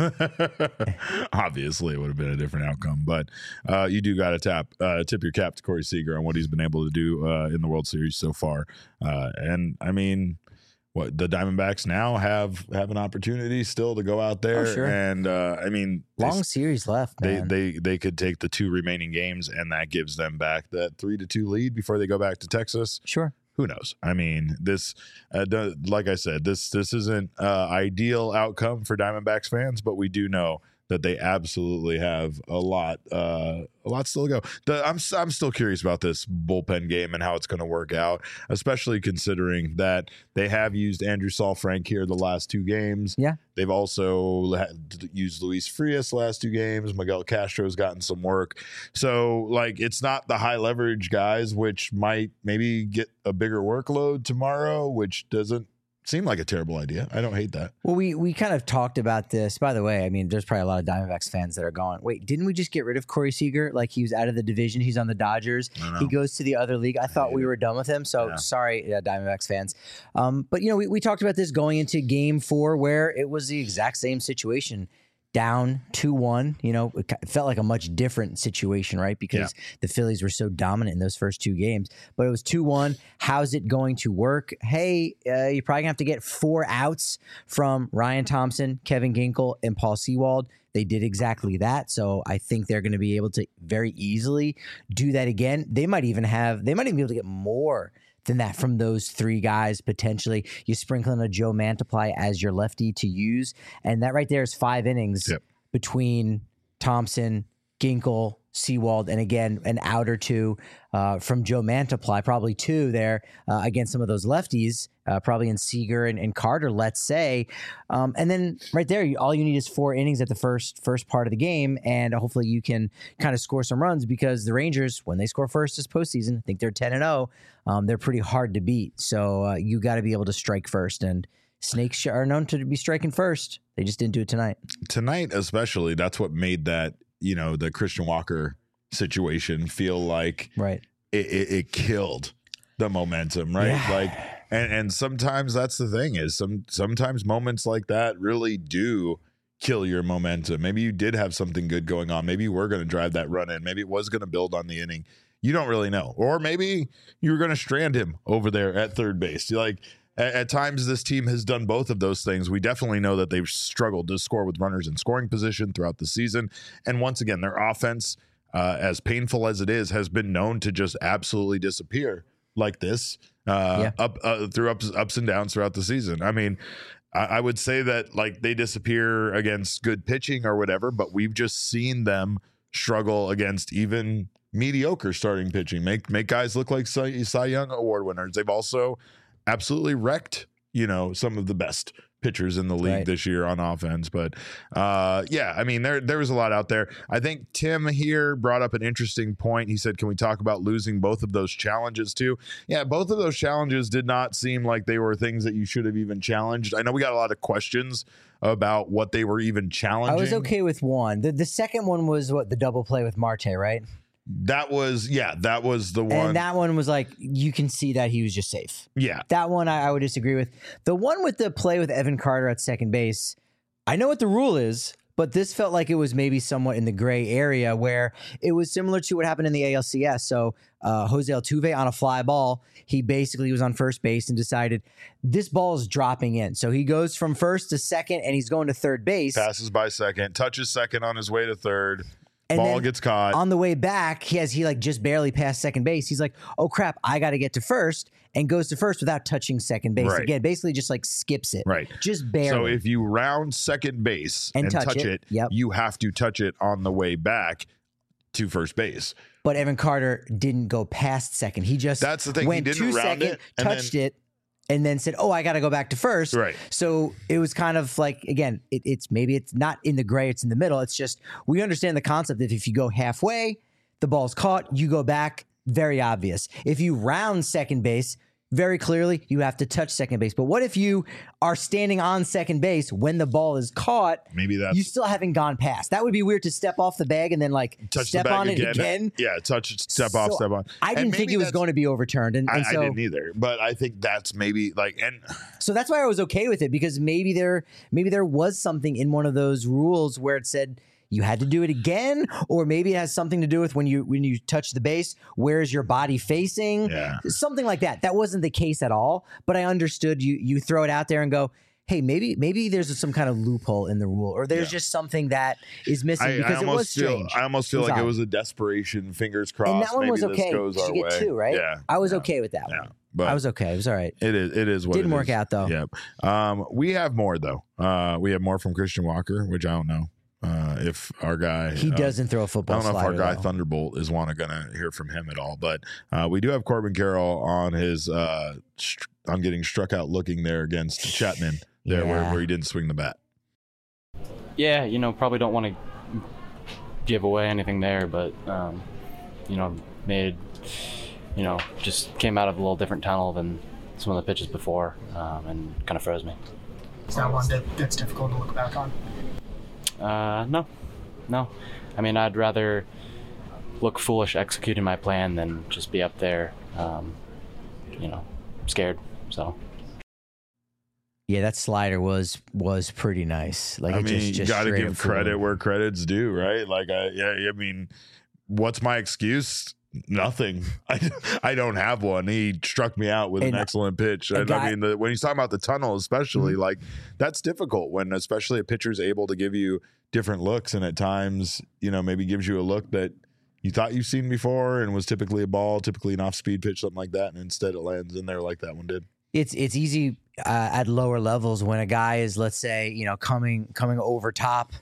Speaker 1: it would have been a different outcome, but you do got to tip your cap to Corey Seager on what he's been able to do in the World Series so far. And I mean, what the Diamondbacks now have an opportunity still to go out there.
Speaker 2: Oh, sure.
Speaker 1: And I mean,
Speaker 2: long series left, man.
Speaker 1: They could take the 2 remaining games, and that gives them back that 3-2 lead before they go back to Texas.
Speaker 2: Sure.
Speaker 1: Who knows? I mean, this, like I said, this isn't ideal outcome for Diamondbacks fans, but we do know that they absolutely have a lot still to go. I'm still curious about this bullpen game and how it's going to work out, especially considering that they have used Andrew Saalfrank here the last 2 games.
Speaker 2: Yeah.
Speaker 1: They've also used Luis Frias the last 2 games. Miguel Castro's gotten some work. So, like, it's not the high leverage guys, which might maybe get a bigger workload tomorrow, which doesn't seem like a terrible idea. I don't hate that.
Speaker 2: Well, we kind of talked about this. By the way, I mean, there's probably a lot of Diamondbacks fans that are going, wait, didn't we just get rid of Corey Seager? Like, he was out of the division. He's on the Dodgers. He goes to the other league. I thought we were done with him. So sorry, Diamondbacks fans. But, you know, we talked about this going into game 4 where it was the exact same situation. Down 2-1, you know, it felt like a much different situation, right? Because the Phillies were so dominant in those first 2 games. But it was 2-1. How's it going to work? Hey, you're probably going to have to get 4 outs from Ryan Thompson, Kevin Ginkel, and Paul Sewald. They did exactly that. So I think they're going to be able to very easily do that again. They might even be able to get more than that from those 3 guys potentially. You sprinkle in a Joe Mantiply as your lefty to use, and that right there is 5 innings between Thompson, Ginkel, Sewald, and again an out or 2 from Joe Mantiply, probably 2 there against some of those lefties, probably in Seager and Carter, let's say, and then right there, all you need is 4 innings at the first part of the game, and hopefully you can kind of score some runs, because the Rangers, when they score first this postseason, I think they're 10-0. They're pretty hard to beat, so you got to be able to strike first, and Snakes are known to be striking first. They just didn't do it tonight.
Speaker 1: Tonight, especially, that's what made that, you know, the Christian Walker situation feel like it killed the momentum, right? Yeah. Like, and sometimes that's the thing is sometimes moments like that really do kill your momentum. Maybe you did have something good going on. Maybe you were going to drive that run in. Maybe it was going to build on the inning. You don't really know. Or maybe you were going to strand him over there at third base. Like, at times, this team has done both of those things. We definitely know that they've struggled to score with runners in scoring position throughout the season. And once again, their offense, as painful as it is, has been known to just absolutely disappear like this through ups and downs throughout the season. I mean, I would say that like they disappear against good pitching or whatever, but we've just seen them struggle against even mediocre starting pitching, make guys look like Cy Young Award winners. They've also absolutely wrecked, you know, some of the best pitchers in the league this year on offense. But yeah, I mean, there was a lot out there. I think Tim here brought up an interesting point. He said, can we talk about losing both of those challenges too? Yeah, both of those challenges did not seem like they were things that you should have even challenged. I know we got a lot of questions about what they were even challenging.
Speaker 2: I was okay with one. The second one was the double play with Marte, right?
Speaker 1: That was the one.
Speaker 2: And that one was like, you can see that he was just safe.
Speaker 1: Yeah.
Speaker 2: That one I would disagree with. The one with the play with Evan Carter at second base, I know what the rule is, but this felt like it was maybe somewhat in the gray area where it was similar to what happened in the ALCS. So Jose Altuve on a fly ball, he basically was on first base and decided this ball is dropping in. So he goes from first to second and he's going to third base.
Speaker 1: Passes by second, touches second on his way to third. And ball gets caught.
Speaker 2: On the way back, he like just barely passed second base. He's like, oh crap, I got to get to first, and goes to first without touching second base.
Speaker 1: Right.
Speaker 2: Again, basically just like skips it.
Speaker 1: Right.
Speaker 2: Just barely.
Speaker 1: So if you round second base and touch it, you have to touch it on the way back to first base.
Speaker 2: But Evan Carter didn't go past second. He just
Speaker 1: That's the thing.
Speaker 2: went
Speaker 1: he didn't
Speaker 2: to
Speaker 1: round
Speaker 2: second,
Speaker 1: it,
Speaker 2: touched it, and then said, oh, I got to go back to first.
Speaker 1: Right.
Speaker 2: So it was kind of like, again, it's maybe it's not in the gray, it's in the middle. It's just, we understand the concept that if you go halfway, the ball's caught, you go back, very obvious. If you round second base, very clearly, you have to touch second base. But what if you are standing on second base when the ball is caught?
Speaker 1: Maybe that's
Speaker 2: you still haven't gone past. That would be weird to step off the bag and then like step on it again.
Speaker 1: Yeah, touch, step off, step on.
Speaker 2: I didn't think it was going to be overturned, and
Speaker 1: I
Speaker 2: so
Speaker 1: didn't either. But I think that's maybe like, and
Speaker 2: so that's why I was okay with it, because maybe there was something in one of those rules where it said you had to do it again, or maybe it has something to do with when you touch the base, where is your body facing?
Speaker 1: Yeah.
Speaker 2: Something like that. That wasn't the case at all, but I understood you throw it out there and go, hey, maybe there's some kind of loophole in the rule, or there's just something that is missing, because it was strange.
Speaker 1: I almost feel like it was a desperation, fingers crossed.
Speaker 2: And that one was okay.
Speaker 1: Goes
Speaker 2: you
Speaker 1: our
Speaker 2: get
Speaker 1: way.
Speaker 2: two, right?
Speaker 1: Yeah.
Speaker 2: I was okay with that one. But I was okay. It was all right.
Speaker 1: It is what
Speaker 2: Didn't work out, though.
Speaker 1: Yep. We have more, though. We have more from Christian Walker, which I don't know. If our guy
Speaker 2: doesn't throw a football,
Speaker 1: I don't know
Speaker 2: slider,
Speaker 1: if our guy
Speaker 2: though.
Speaker 1: Thunderbolt is going to hear from him at all, but we do have Corbin Carroll on his on getting struck out looking there against Chapman there where he didn't swing the bat.
Speaker 5: Yeah, probably don't want to give away anything there, but just came out of a little different tunnel than some of the pitches before, and kind of froze me.
Speaker 6: Is that one that's difficult to look back on?
Speaker 5: No. I mean, I'd rather look foolish executing my plan than just be up there, scared. So.
Speaker 2: Yeah, that slider was pretty nice. Like,
Speaker 1: I mean, you got to give credit where credit's due, right? Like, I mean, what's my excuse? Nothing. I don't have one. He struck me out with an excellent pitch. I mean, when he's talking about the tunnel, especially, like, that's difficult when especially a pitcher's able to give you different looks, and at times, maybe gives you a look that you thought you've seen before and was typically a ball, typically an off-speed pitch, something like that, and instead it lands in there like that one did.
Speaker 2: It's easy at lower levels when a guy is, let's say, coming over top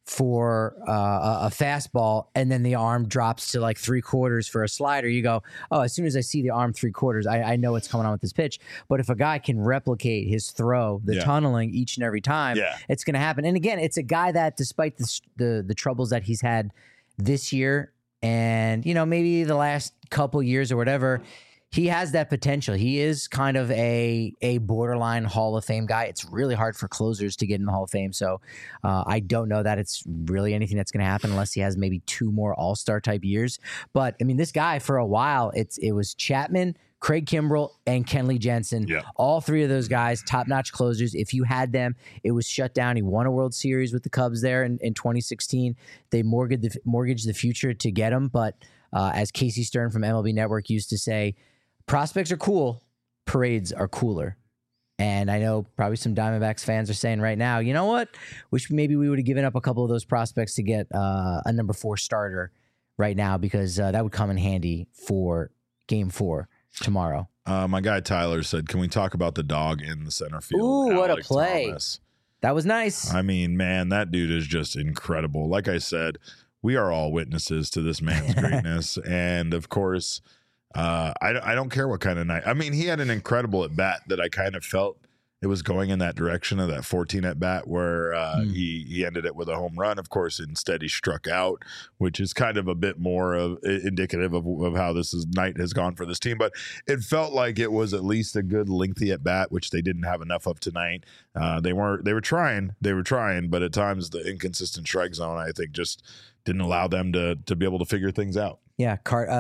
Speaker 2: for a fastball, and then the arm drops to like 3/4 for a slider. You go, oh, as soon as I see the arm 3/4, I know what's coming on with this pitch. But if a guy can replicate his throw, the tunneling each and every time, it's going to happen. And again, it's a guy that, despite the troubles that he's had this year, and maybe the last couple years or whatever, he has that potential. He is kind of a borderline Hall of Fame guy. It's really hard for closers to get in the Hall of Fame. So I don't know that it's really anything that's going to happen unless he has maybe 2 more All-Star type years. But I mean, this guy for a while, it was Chapman, Craig Kimbrell, and Kenley Jensen.
Speaker 1: Yeah.
Speaker 2: All 3 of those guys, top-notch closers. If you had them, it was shut down. He won a World Series with the Cubs there in 2016. They mortgaged the future to get him. But as Casey Stern from MLB Network used to say, prospects are cool, parades are cooler. And I know probably some Diamondbacks fans are saying right now, you know what? Wish maybe we would have given up a couple of those prospects to get a number 4 starter right now, because that would come in handy for Game 4 tomorrow.
Speaker 1: My guy Tyler said, can we talk about the dog in the center field?
Speaker 2: Ooh, what a
Speaker 1: Alek
Speaker 2: play.
Speaker 1: Thomas.
Speaker 2: That was nice.
Speaker 1: I mean, man, that dude is just incredible. Like I said, we are all witnesses to this man's greatness. And of course, I don't care what kind of night. I mean, he had an incredible at bat that I kind of felt it was going in that direction of that 14 at bat where he ended it with a home run. Of course, instead he struck out, which is kind of a bit more of indicative of how night has gone for this team. But it felt like it was at least a good lengthy at bat, which they didn't have enough of tonight. They were trying, but at times the inconsistent strike zone, I think, just didn't allow them to be able to figure things out.
Speaker 2: Yeah,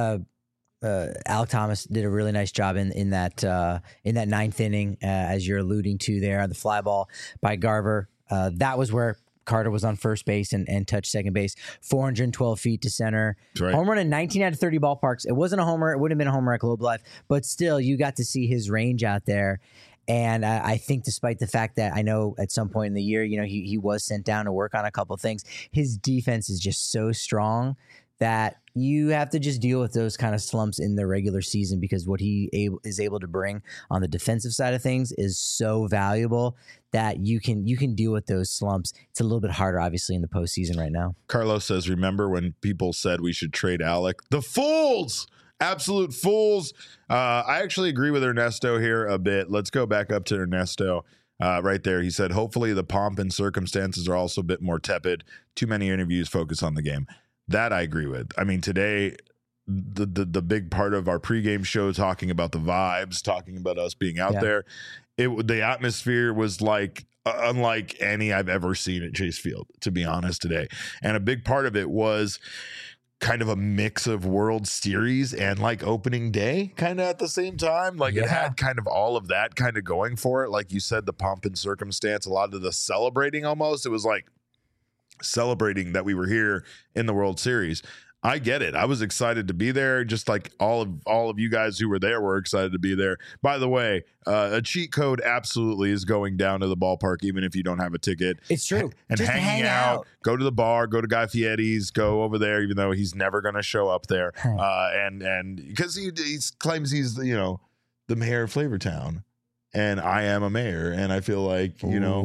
Speaker 2: Alek Thomas did a really nice job in that ninth inning, as you're alluding to there, on the fly ball by Garver. That was where Carter was on first base and touched second base. 412 feet to center. Right. Home run in 19 out of 30 ballparks. It wasn't a homer. It wouldn't have been a homer at Globe Life, but still, you got to see his range out there. And I think despite the fact that I know at some point in the year, he was sent down to work on a couple of things, his defense is just so strong that you have to just deal with those kind of slumps in the regular season, because what he is able to bring on the defensive side of things is so valuable that you can deal with those slumps. It's a little bit harder, obviously, in the postseason right now.
Speaker 1: Carlos says, remember when people said we should trade Alec? The fools! Absolute fools. I actually agree with Ernesto here a bit. Let's go back up to Ernesto right there. He said, hopefully the pomp and circumstances are also a bit more tepid. Too many interviews focus on the game. That I agree with. I mean, today, the big part of our pregame show, talking about the vibes, talking about us being out there, the atmosphere was like unlike any I've ever seen at Chase Field, to be honest, today. And a big part of it was kind of a mix of World Series and like opening day kind of at the same time. Like it had kind of all of that kind of going for it. Like you said, the pomp and circumstance, a lot of the celebrating almost. It was like celebrating that we were here in the World Series. I get it. I was excited to be there, just like all of you guys who were there were excited to be there. By the way, a cheat code absolutely is going down to the ballpark, even if you don't have a ticket.
Speaker 2: It's true.
Speaker 1: And
Speaker 2: just
Speaker 1: hanging out, go to the bar, go to Guy Fieri's, go over there, even though he's never going to show up there. And because he claims he's the mayor of Flavortown. And I am a mayor, and I feel like,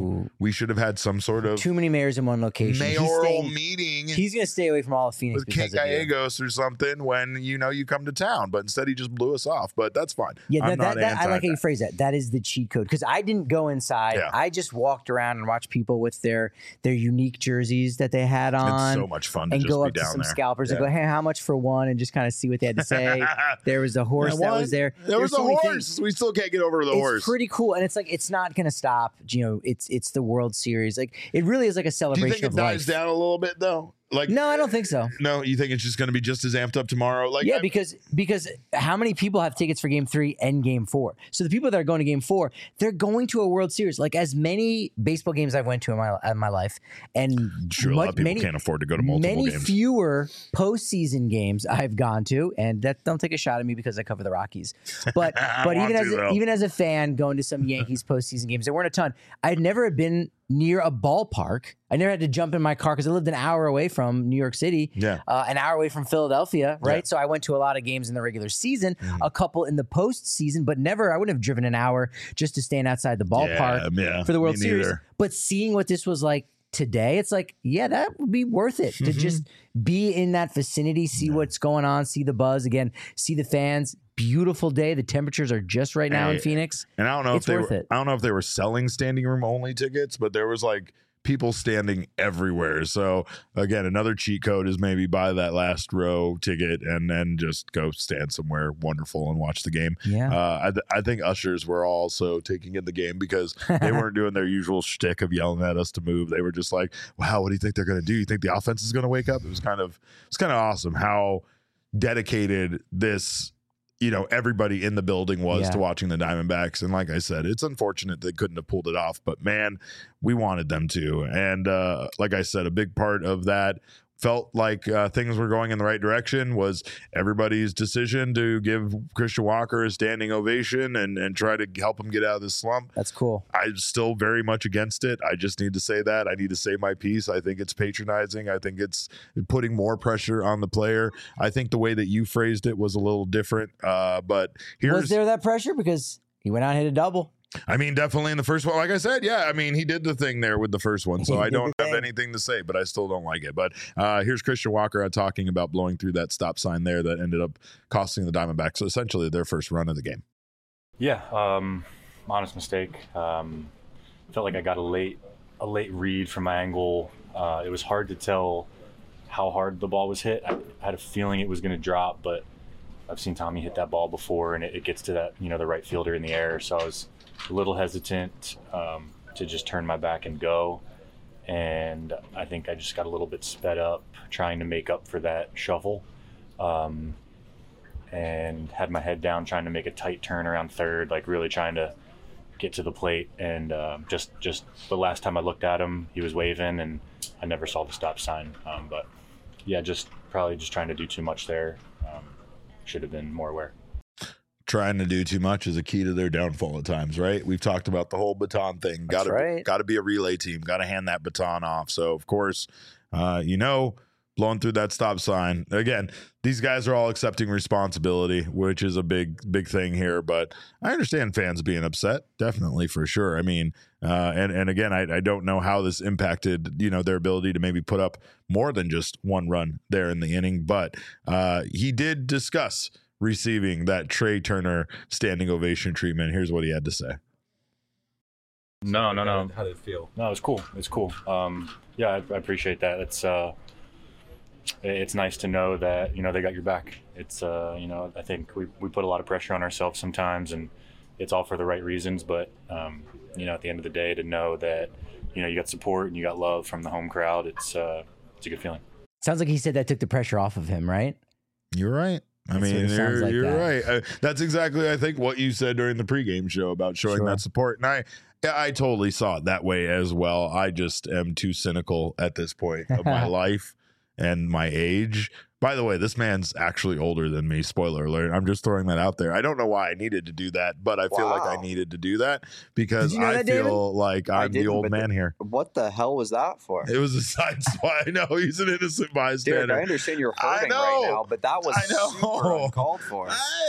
Speaker 1: we should have had some sort of
Speaker 2: too many mayors in one location.
Speaker 1: Mayoral meeting.
Speaker 2: He's going to stay away from all of Phoenix
Speaker 1: with Kate Gallegos or something when, you come to town. But instead, he just blew us off. But that's fine.
Speaker 2: Yeah, I like how you phrase that. That is the cheat code. Because I didn't go inside. Yeah. I just walked around and watched people with their unique jerseys that they had on.
Speaker 1: It's so much fun to just
Speaker 2: go
Speaker 1: be
Speaker 2: up to
Speaker 1: down
Speaker 2: some
Speaker 1: there.
Speaker 2: Scalpers and go, hey, how much for one? And just kind of see what they had to say. There was a horse that was there.
Speaker 1: There was a horse. We still can't get over the horse.
Speaker 2: It's pretty cool. And it's like, it's not going to stop. It's the World Series. Like, it really is like a celebration of life.
Speaker 1: Do you think it dies down a little bit though? Like,
Speaker 2: no, I don't think so.
Speaker 1: No, you think it's just going to be just as amped up tomorrow? Like,
Speaker 2: yeah, because how many people have tickets for Game 3 and Game 4? So the people that are going to Game 4, they're going to a World Series. Like, as many baseball games I've went to in my life, and
Speaker 1: sure, a lot of people can't afford to go to multiple games.
Speaker 2: Many fewer postseason games I've gone to, and that don't take a shot at me because I cover the Rockies. But even as a fan going to some Yankees postseason games, there weren't a ton. I'd never been near a ballpark. I never had to jump in my car because I lived an hour away from New York City, an hour away from Philadelphia, right? Yeah. So I went to a lot of games in the regular season, a couple in the postseason, but never, I wouldn't have driven an hour just to stand outside the ballpark for the World Series. But seeing what this was like today, it's like, yeah, that would be worth it to just be in that vicinity, see what's going on, see the buzz again, see the fans. Beautiful day. The temperatures are just right now in Phoenix.
Speaker 1: And I don't know I don't know if they were selling standing room only tickets, but there was like people standing everywhere. So again, another cheat code is maybe buy that last row ticket and then just go stand somewhere wonderful and watch the game.
Speaker 2: Yeah.
Speaker 1: I think ushers were also taking in the game because they weren't doing their usual shtick of yelling at us to move. They were just like, wow, what do you think they're going to do? You think the offense is going to wake up? It was kind of awesome how dedicated this everybody in the building was to watching the Diamondbacks. And like I said, it's unfortunate they couldn't have pulled it off, but man, we wanted them to. And like I said, a big part of that felt like things were going in the right direction was everybody's decision to give Christian Walker a standing ovation and try to help him get out of this slump.
Speaker 2: That's cool.
Speaker 1: I'm still very much against it. I just need to say that. I need to say my piece. I think it's patronizing. I think it's putting more pressure on the player. I think the way that you phrased it was a little different. But
Speaker 2: was there that pressure? Because he went out and hit a double.
Speaker 1: I mean, definitely in the first one, like I said, I mean, he did the thing there with the first one, so I don't have anything to say, but I still don't like it. But here's Christian Walker talking about blowing through that stop sign there that ended up costing the Diamondbacks essentially their first run of the game.
Speaker 7: Yeah, honest mistake. Felt like I got a late read from my angle. It was hard to tell how hard the ball was hit. I had a feeling it was going to drop, but I've seen Tommy hit that ball before, and it gets to that, the right fielder in the air. So I was a little hesitant to just turn my back and go. And I think I just got a little bit sped up trying to make up for that shuffle, and had my head down trying to make a tight turn around third, like really trying to get to the plate. And just the last time I looked at him, he was waving, and I never saw the stop sign. But yeah, probably just trying to do too much there. Should have been more aware.
Speaker 1: Trying to do too much is a key to their downfall at times, right? We've talked about the whole baton thing. Got to be a relay team. Got to hand that baton off. So of course, blowing through that stop sign again. These guys are all accepting responsibility, which is a big thing here. But I understand fans being upset, definitely, for sure. I mean, and again, I don't know how this impacted their ability to maybe put up more than just one run there in the inning. But he did discuss receiving that Trey Turner standing ovation treatment. Here's what he had to say.
Speaker 7: No.
Speaker 8: How did it feel?
Speaker 7: No, it's cool. Yeah, I appreciate that. It's nice to know that, they got your back. It's, I think we put a lot of pressure on ourselves sometimes, and it's all for the right reasons. But, at the end of the day, to know that, you got support and you got love from the home crowd, it's a good feeling.
Speaker 2: Sounds like he said that took the pressure off of him, right?
Speaker 1: You're right. I mean, you're right. That's exactly, I think, what you said during the pregame show about showing that support. And I totally saw it that way as well. I just am too cynical at this point of my life and my age. By the way, this man's actually older than me. Spoiler alert. I'm just throwing that out there. I don't know why I needed to do that, but I feel like I needed to do that because I feel like I'm the old man here.
Speaker 3: What the hell was that for?
Speaker 1: It was a side spot. I know he's an innocent bystander.
Speaker 3: Dude, I understand you're hurting right now, but that was super uncalled for.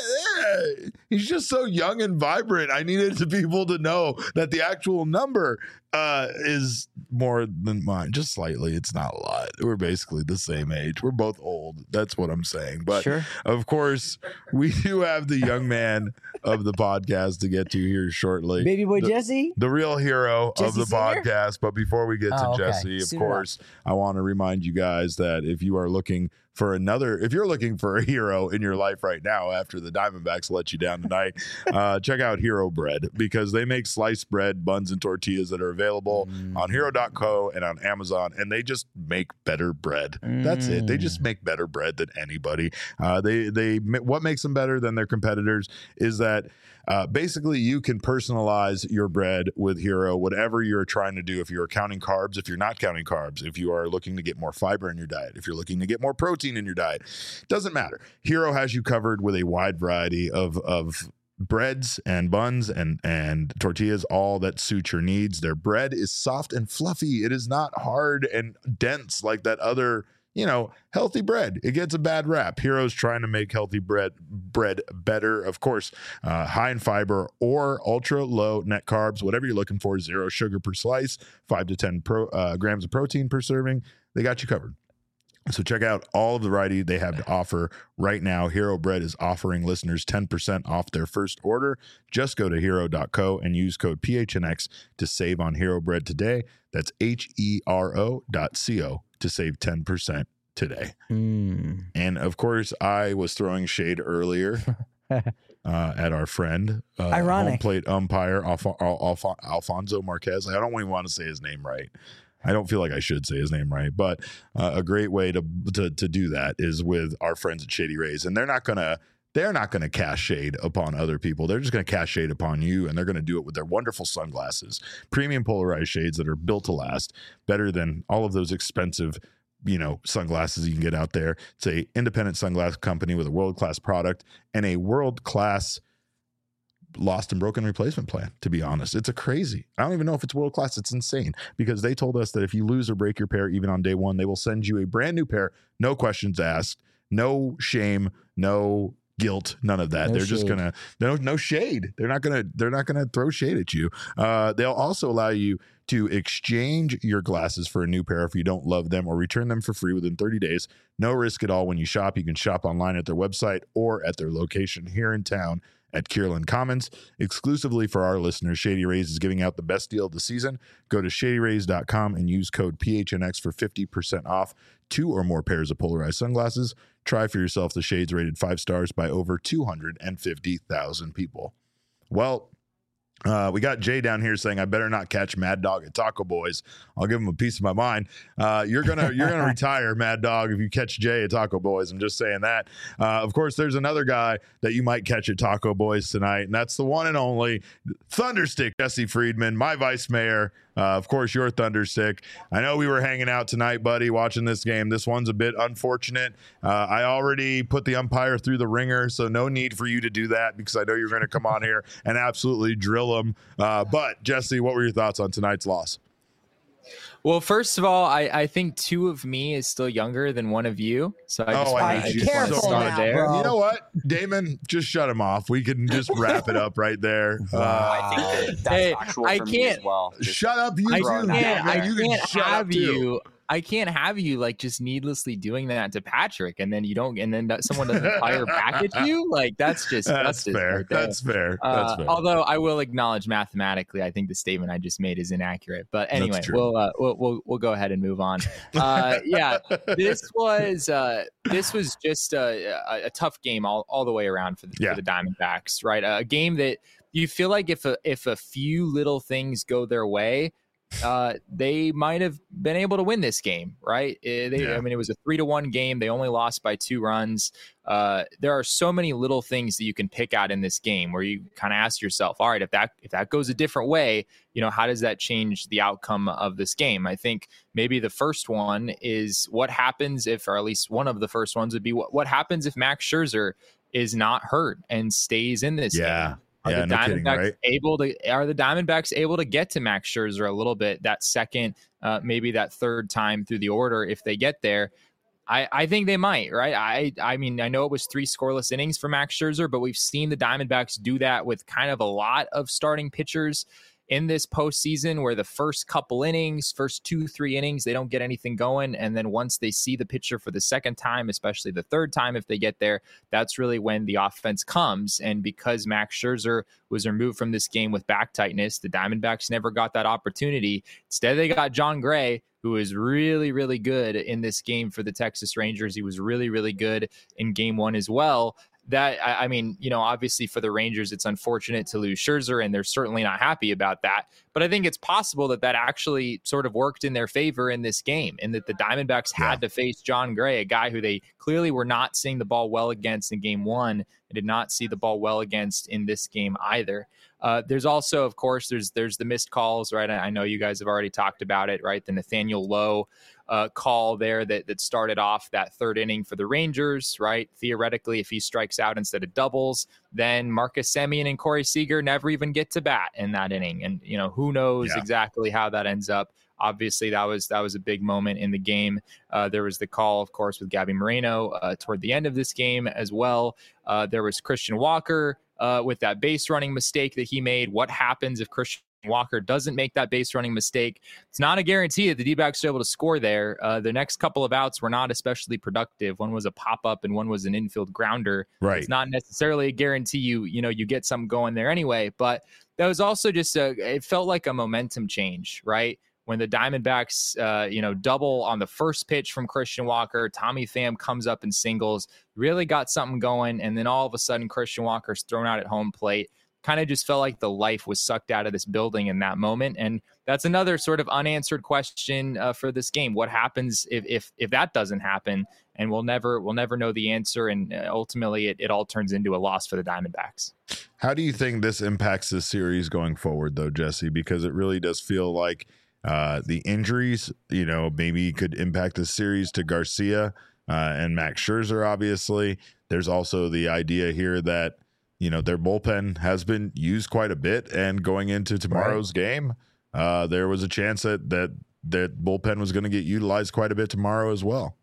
Speaker 1: He's just so young and vibrant. I needed people to know that the actual number is more than mine, just slightly. It's not a lot. We're basically the same age. We're both old. That's what I'm saying. But of course, we do have the young man of the podcast to get to here shortly.
Speaker 2: Baby boy Jesse,
Speaker 1: the real hero
Speaker 2: Jesse
Speaker 1: of the
Speaker 2: Senior?
Speaker 1: podcast. But before we get to Jesse, of course, I want to remind you guys that if you are looking for if you're looking for a hero in your life right now after the Diamondbacks let you down tonight, check out Hero Bread, because they make sliced bread, buns, and tortillas that are available on hero.co and on Amazon, and they just make better bread. That's it. They just make better bread than anybody. What makes them better than their competitors is that basically you can personalize your bread with Hero, whatever you're trying to do. If you're counting carbs, if you're not counting carbs, if you are looking to get more fiber in your diet, if you're looking to get more protein in your diet, doesn't matter. Hero has you covered with a wide variety of breads and buns and tortillas, all that suit your needs. Their bread is soft and fluffy. It is not hard and dense like that other healthy bread. It gets a bad rap. Hero's trying to make healthy bread better. Of course, high in fiber or ultra low net carbs, whatever you're looking for. 0 sugar per slice, 5 to 10 grams of protein per serving. They got you covered. So check out all of the variety they have to offer right now. Hero Bread is offering listeners 10% off their first order. Just go to hero.co and use code PHNX to save on Hero Bread today. That's HERO.co to save 10% today. And of course, I was throwing shade earlier at our friend, home plate umpire Alfonso Marquez. I don't even want to say his name right. I don't feel like I should say his name right, but a great way to do that is with our friends at Shady Rays, and they're not gonna cast shade upon other people. They're just gonna cast shade upon you, and they're gonna do it with their wonderful sunglasses, premium polarized shades that are built to last, better than all of those expensive sunglasses you can get out there. It's a independent sunglass company with a world-class product and a world-class lost and broken replacement plan. To be honest, it's crazy. I don't even know if it's world class. It's insane, because they told us that if you lose or break your pair even on day one, they will send you a brand new pair, no questions asked, no shame, no guilt, none of that. They're just gonna no shade. They're not gonna throw shade at you. They'll also allow you to exchange your glasses for a new pair if you don't love them, or return them for free within 30 days. No risk at all when you shop. You can shop online at their website or at their location here in town at Kierland Commons. Exclusively for our listeners, Shady Rays is giving out the best deal of the season. Go to shadyrays.com and use code PHNX for 50% off 2 or more pairs of polarized sunglasses. Try for yourself the shades rated 5 stars by over 250,000 people. Well, we got Jay down here saying, I better not catch Mad Dog at Taco Boys. I'll give him a piece of my mind. You're gonna retire, Mad Dog, if you catch Jay at Taco Boys. I'm just saying that. Of course, there's another guy that you might catch at Taco Boys tonight, and that's the one and only Thunderstick Jesse Friedman, my vice mayor. Of course, you're Thunderstick. I know we were hanging out tonight, buddy, watching this game. This one's a bit unfortunate. I already put the umpire through the ringer, so no need for you to do that because I know you're going to come on here and absolutely drill them. But, Jesse, what were your thoughts on tonight's loss?
Speaker 8: Well, first of all, I think 2 of me is still younger than 1 of you. So I just want to start there.
Speaker 1: You know what, Damon, just shut him off. We can just wrap it up right there.
Speaker 3: I think that's factual for me as well.
Speaker 1: Shut up, you two.
Speaker 8: I can't have you like just needlessly doing that to Patrick, and then someone doesn't fire back at you. Like that's fair.
Speaker 1: Right, that's fair.
Speaker 8: Although I will acknowledge mathematically, I think the statement I just made is inaccurate. But anyway, we'll go ahead and move on. This was just a tough game all the way around for the Diamondbacks. Right, a game that you feel like if a few little things go their way, they might have been able to win this game, right? I mean, it was a 3-1 game. They only lost by 2 runs. There are so many little things that you can pick out in this game where you kind of ask yourself, all right, if that goes a different way, how does that change the outcome of this game? I think maybe the first one is what happens if, or at least one of the first ones would be what happens if Max Scherzer is not hurt and stays in this game. Are the Diamondbacks able to get to Max Scherzer a little bit that second, maybe that third time through the order if they get there? I think they might, right? I mean, I know it was 3 scoreless innings for Max Scherzer, but we've seen the Diamondbacks do that with kind of a lot of starting pitchers in this postseason, where the first couple innings, first 2-3 innings, they don't get anything going. And then once they see the pitcher for the second time, especially the third time, if they get there, that's really when the offense comes. And because Max Scherzer was removed from this game with back tightness, the Diamondbacks never got that opportunity. Instead, they got Jon Gray, who is really, really good in this game for the Texas Rangers. He was really, really good in game 1 as well. That, I mean, obviously for the Rangers, it's unfortunate to lose Scherzer, and they're certainly not happy about that. But I think it's possible that actually sort of worked in their favor in this game, and that the Diamondbacks had to face Jon Gray, a guy who they clearly were not seeing the ball well against in game 1, and did not see the ball well against in this game either. There's also, of course, there's the missed calls, right? I know you guys have already talked about it, right? The Nathaniel Lowe call there that started off that third inning for the Rangers, right? Theoretically, if he strikes out instead of doubles, then Marcus Semien and Corey Seager never even get to bat in that inning. And, who knows exactly how that ends up. Obviously, that was a big moment in the game. There was the call, of course, with Gabby Moreno toward the end of this game as well. There was Christian Walker with that base running mistake that he made. What happens if Christian Walker doesn't make that base running mistake? It's not a guarantee that the D-backs are able to score there. The next couple of outs were not especially productive. One was a pop-up and one was an infield grounder. Right. It's not necessarily a guarantee you get something going there anyway, but that was also just it felt like a momentum change, right? When the Diamondbacks, double on the first pitch from Christian Walker, Tommy Pham comes up and singles, really got something going, and then all of a sudden Christian Walker's thrown out at home plate. Kind of just felt like the life was sucked out of this building in that moment. And that's another sort of unanswered question for this game. What happens if that doesn't happen? And we'll never know the answer. And ultimately, it all turns into a loss for the Diamondbacks.
Speaker 1: How do you think this impacts the series going forward, though, Jesse? Because it really does feel like the injuries, maybe could impact the series to Garcia and Max Scherzer, obviously. There's also the idea here that their bullpen has been used quite a bit, and going into tomorrow's game, there was a chance that bullpen was going to get utilized quite a bit tomorrow as well.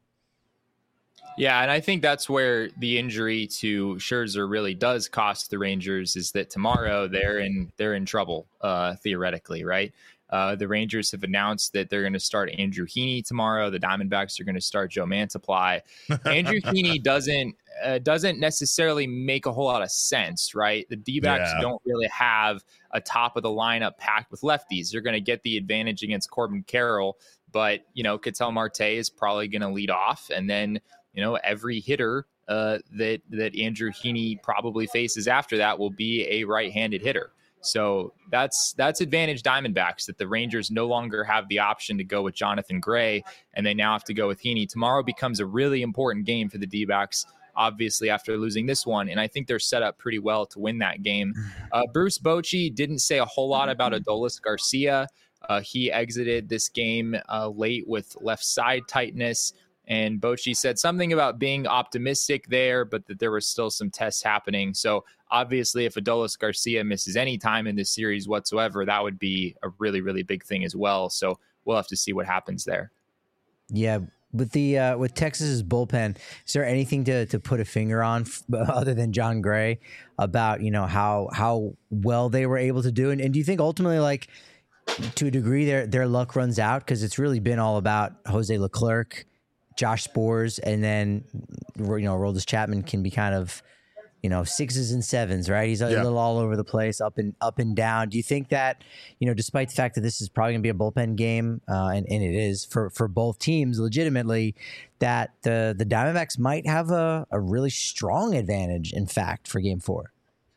Speaker 8: Yeah, and I think that's where the injury to Scherzer really does cost the Rangers, is that tomorrow they're in trouble, theoretically, right? The Rangers have announced that they're going to start Andrew Heaney tomorrow. The Diamondbacks are going to start Joe Mantiply. Andrew Heaney doesn't necessarily make a whole lot of sense, right? The D-backs don't really have a top of the lineup packed with lefties. They're going to get the advantage against Corbin Carroll, but Ketel Marte is probably going to lead off, and then every hitter that Andrew Heaney probably faces after that will be a right-handed hitter. So that's advantage Diamondbacks, that the Rangers no longer have the option to go with Jonathan Gray, and they now have to go with Heaney. Tomorrow becomes a really important game for the D-backs, obviously, after losing this one, and I think they're set up pretty well to win that game. Bruce Bochy didn't say a whole lot about Adolis Garcia. He exited this game late with left side tightness, and Bochy said something about being optimistic there, but that there were still some tests happening. So obviously, if Adolis Garcia misses any time in this series whatsoever, that would be a really, really big thing as well. So we'll have to see what happens there.
Speaker 2: Yeah. With Texas's bullpen, is there anything to put a finger on other than John Gray about, how well they were able to do? And do you think ultimately, like, to a degree, their luck runs out? Because it's really been all about Jose Leclerc, Josh Sborz, and then, Aroldis Chapman can be kind of, sixes and sevens, right? He's a little all over the place, up and down. Do you think that, despite the fact that this is probably going to be a bullpen game, and it is for both teams legitimately, that the Diamondbacks might have a really strong advantage, in fact, for Game 4?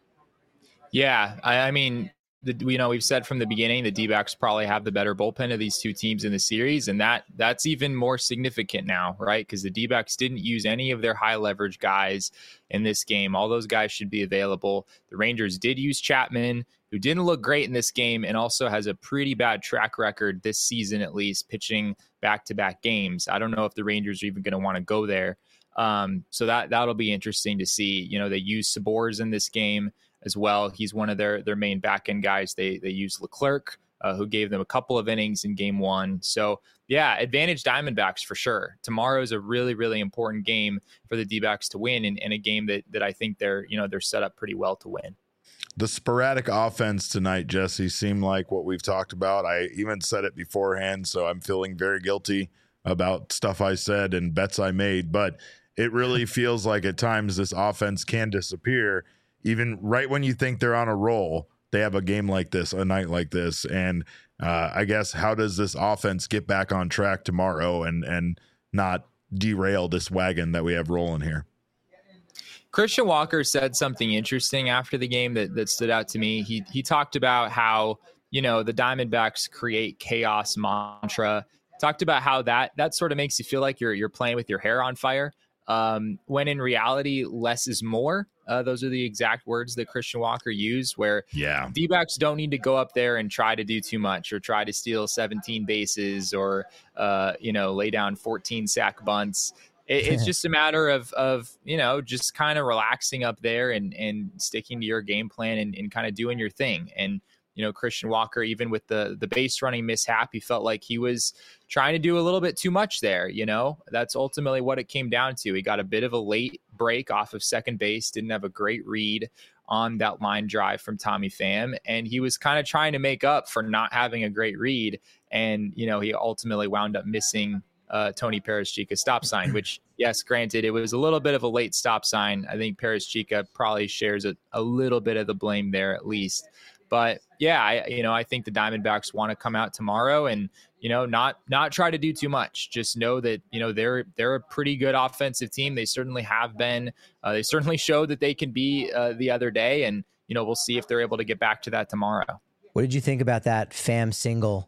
Speaker 8: Yeah, I mean, we've said from the beginning the D-backs probably have the better bullpen of these two teams in the series, and that's even more significant now, right? Because the D-backs didn't use any of their high leverage guys in this game. All those guys should be available. The Rangers did use Chapman, who didn't look great in this game and also has a pretty bad track record this season, at least, pitching back-to-back games. I don't know if the Rangers are even going to want to go there. So that'll be interesting to see. They used Sborz in this game as well. He's one of their main back end guys. They used Leclerc, who gave them a couple of innings in Game 1. So yeah, advantage Diamondbacks for sure. Tomorrow is a really, really important game for the D-backs to win, and a game that I think they're set up pretty well to win.
Speaker 1: The sporadic offense tonight, Jesse, seemed like what we've talked about. I even said it beforehand, so I'm feeling very guilty about stuff I said and bets I made, but it really feels like at times this offense can disappear. Even right when you think they're on a roll, they have a game like this, a night like this. And I guess, how does this offense get back on track tomorrow and not derail this wagon that we have rolling here?
Speaker 8: Christian Walker said something interesting after the game that stood out to me. He talked about how, the Diamondbacks create chaos mantra. Talked about how that sort of makes you feel like you're playing with your hair on fire. When in reality, less is more. Those are the exact words that Christian Walker used, where D-backs don't need to go up there and try to do too much or try to steal 17 bases or, lay down 14 sack bunts. It's just a matter of just kind of relaxing up there and sticking to your game plan and kind of doing your thing. And, Christian Walker, even with the base running mishap, he felt like he was trying to do a little bit too much there. That's ultimately what it came down to. He got a bit of a late break off of second base, didn't have a great read on that line drive from Tommy Pham, and he was kind of trying to make up for not having a great read. And, he ultimately wound up missing Tony Perez-Chica's stop sign, which, yes, granted, it was a little bit of a late stop sign. I think Perez-Chica probably shares a little bit of the blame there at least. But yeah, I think the Diamondbacks want to come out tomorrow and, not try to do too much. Just know that, they're a pretty good offensive team. They certainly have been. They certainly showed that they can be the other day. And, we'll see if they're able to get back to that tomorrow.
Speaker 2: What did you think about that Pham single?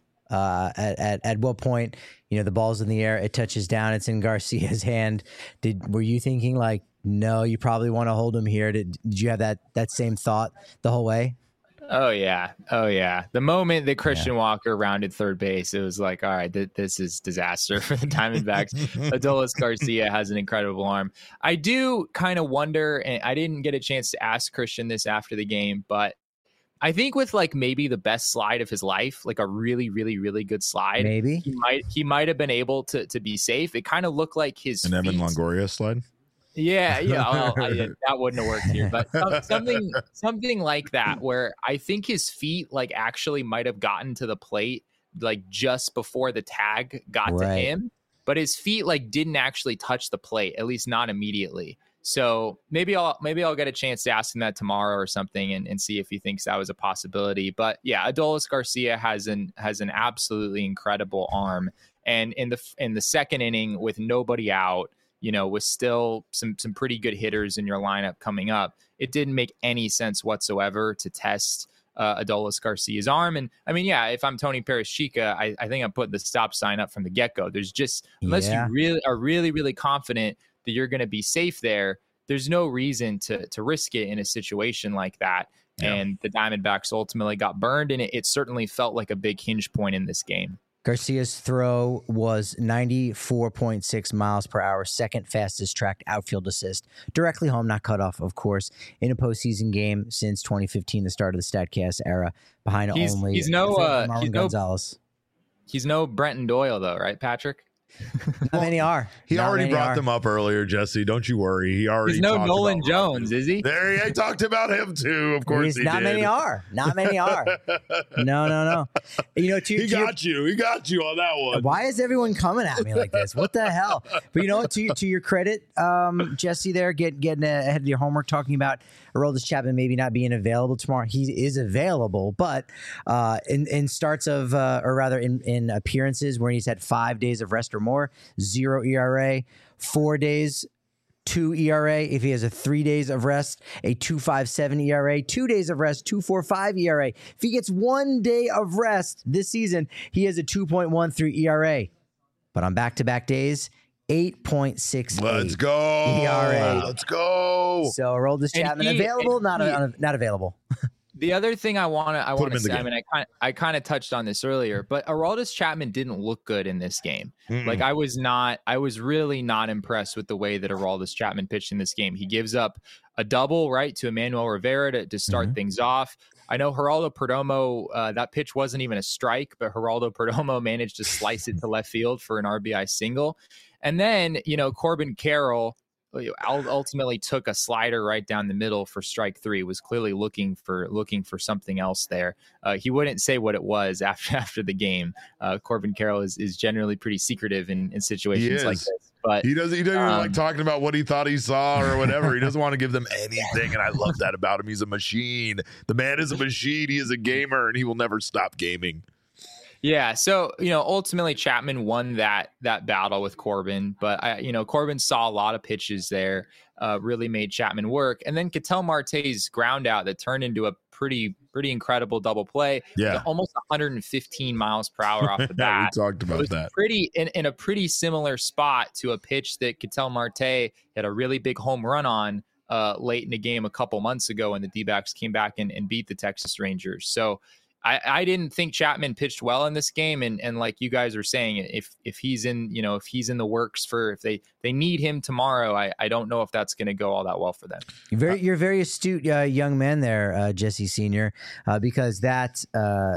Speaker 2: At what point, the ball's in the air, it touches down, it's in Garcia's hand. Were you thinking like, no, you probably want to hold him here? Did you have that same thought the whole way?
Speaker 8: Oh yeah. The moment that Christian Walker rounded third base, it was like, all right, this is disaster for the Diamondbacks. Adolis Garcia has an incredible arm. I do kind of wonder, and I didn't get a chance to ask Christian this after the game, but I think with like maybe the best slide of his life, like a really, really, really good slide,
Speaker 2: maybe
Speaker 8: he might have been able to be safe. It kind of looked like his
Speaker 1: Evan Longoria slide.
Speaker 8: Yeah. Well, that wouldn't have worked here, but something like that, where I think his feet like actually might have gotten to the plate like just before the tag got to him, but his feet like didn't actually touch the plate, at least not immediately. So maybe I'll get a chance to ask him that tomorrow or something and see if he thinks that was a possibility. But yeah, Adolis Garcia has an absolutely incredible arm. And in the second inning with nobody out, with still some pretty good hitters in your lineup coming up, it didn't make any sense whatsoever to test Adolis Garcia's arm. And I mean, yeah, if I'm Tony Perez-Chica, I think I'm putting the stop sign up from the get-go. There's just, unless you really are really, really confident that you're going to be safe there's no reason to risk it in a situation like that. Yeah. And the Diamondbacks ultimately got burned, and it certainly felt like a big hinge point in this game.
Speaker 2: Garcia's throw was 94.6 miles per hour, second fastest tracked outfield assist. Directly home, not cut off, of course, in a postseason game since 2015, the start of the StatCast era, behind only Marwin Gonzalez.
Speaker 8: He's no Brenton Doyle, though, right, Patrick?
Speaker 2: Not many are.
Speaker 1: He already brought them up earlier, Jesse. Don't you worry. He already.
Speaker 8: He's no Nolan Jones, is he?
Speaker 1: There, he talked about him too. Of course,
Speaker 2: not many are. Not many are. No.
Speaker 1: He got you on that one.
Speaker 2: Why is everyone coming at me like this? What the hell? But you know what? To your credit, Jesse, there getting ahead of your homework, talking about Aroldis Chapman maybe not being available tomorrow. He is available, but in starts of, or rather in appearances where he's had 5 days of rest or more, 0 ERA, 4 days, 2 ERA. If he has a 3 days of rest, a 2.57 ERA, 2 days of rest, 2.45 ERA. If he gets 1 day of rest this season, he has a 2.13 ERA. But on back-to-back days, 8.68.
Speaker 1: Let's go.
Speaker 2: ERA.
Speaker 1: Let's go.
Speaker 2: So Aroldis Chapman available, not available.
Speaker 8: The other thing I want to say, I mean, I kind of touched on this earlier, but Aroldis Chapman didn't look good in this game. Like I was really not impressed with the way that Aroldis Chapman pitched in this game. He gives up a double, right, to Emmanuel Rivera to start things off. I know Geraldo Perdomo, that pitch wasn't even a strike, but Geraldo Perdomo managed to slice it to left field for an RBI single. And then, Corbin Carroll ultimately took a slider right down the middle for strike three, was clearly looking for something else there. He wouldn't say what it was after the game. Corbin Carroll is generally pretty secretive in situations like this. But
Speaker 1: he doesn't even like talking about what he thought he saw or whatever. He doesn't want to give them anything. And I love that about him. He's a machine. The man is a machine. He is a gamer, and he will never stop gaming.
Speaker 8: Yeah, so ultimately Chapman won that battle with Corbin, but Corbin saw a lot of pitches there, really made Chapman work, and then Ketel Marte's ground out that turned into a pretty incredible double play.
Speaker 1: Yeah,
Speaker 8: almost 115 miles per hour off the bat.
Speaker 1: We talked about that.
Speaker 8: Pretty in a pretty similar spot to a pitch that Ketel Marte had a really big home run on late in the game a couple months ago when the D-backs came back and beat the Texas Rangers. So I didn't think Chapman pitched well in this game, and like you guys are saying, if he's in the works for if they need him tomorrow, I don't know if that's going to go all that well for them.
Speaker 2: You're very astute young man there, Jesse Senior, because that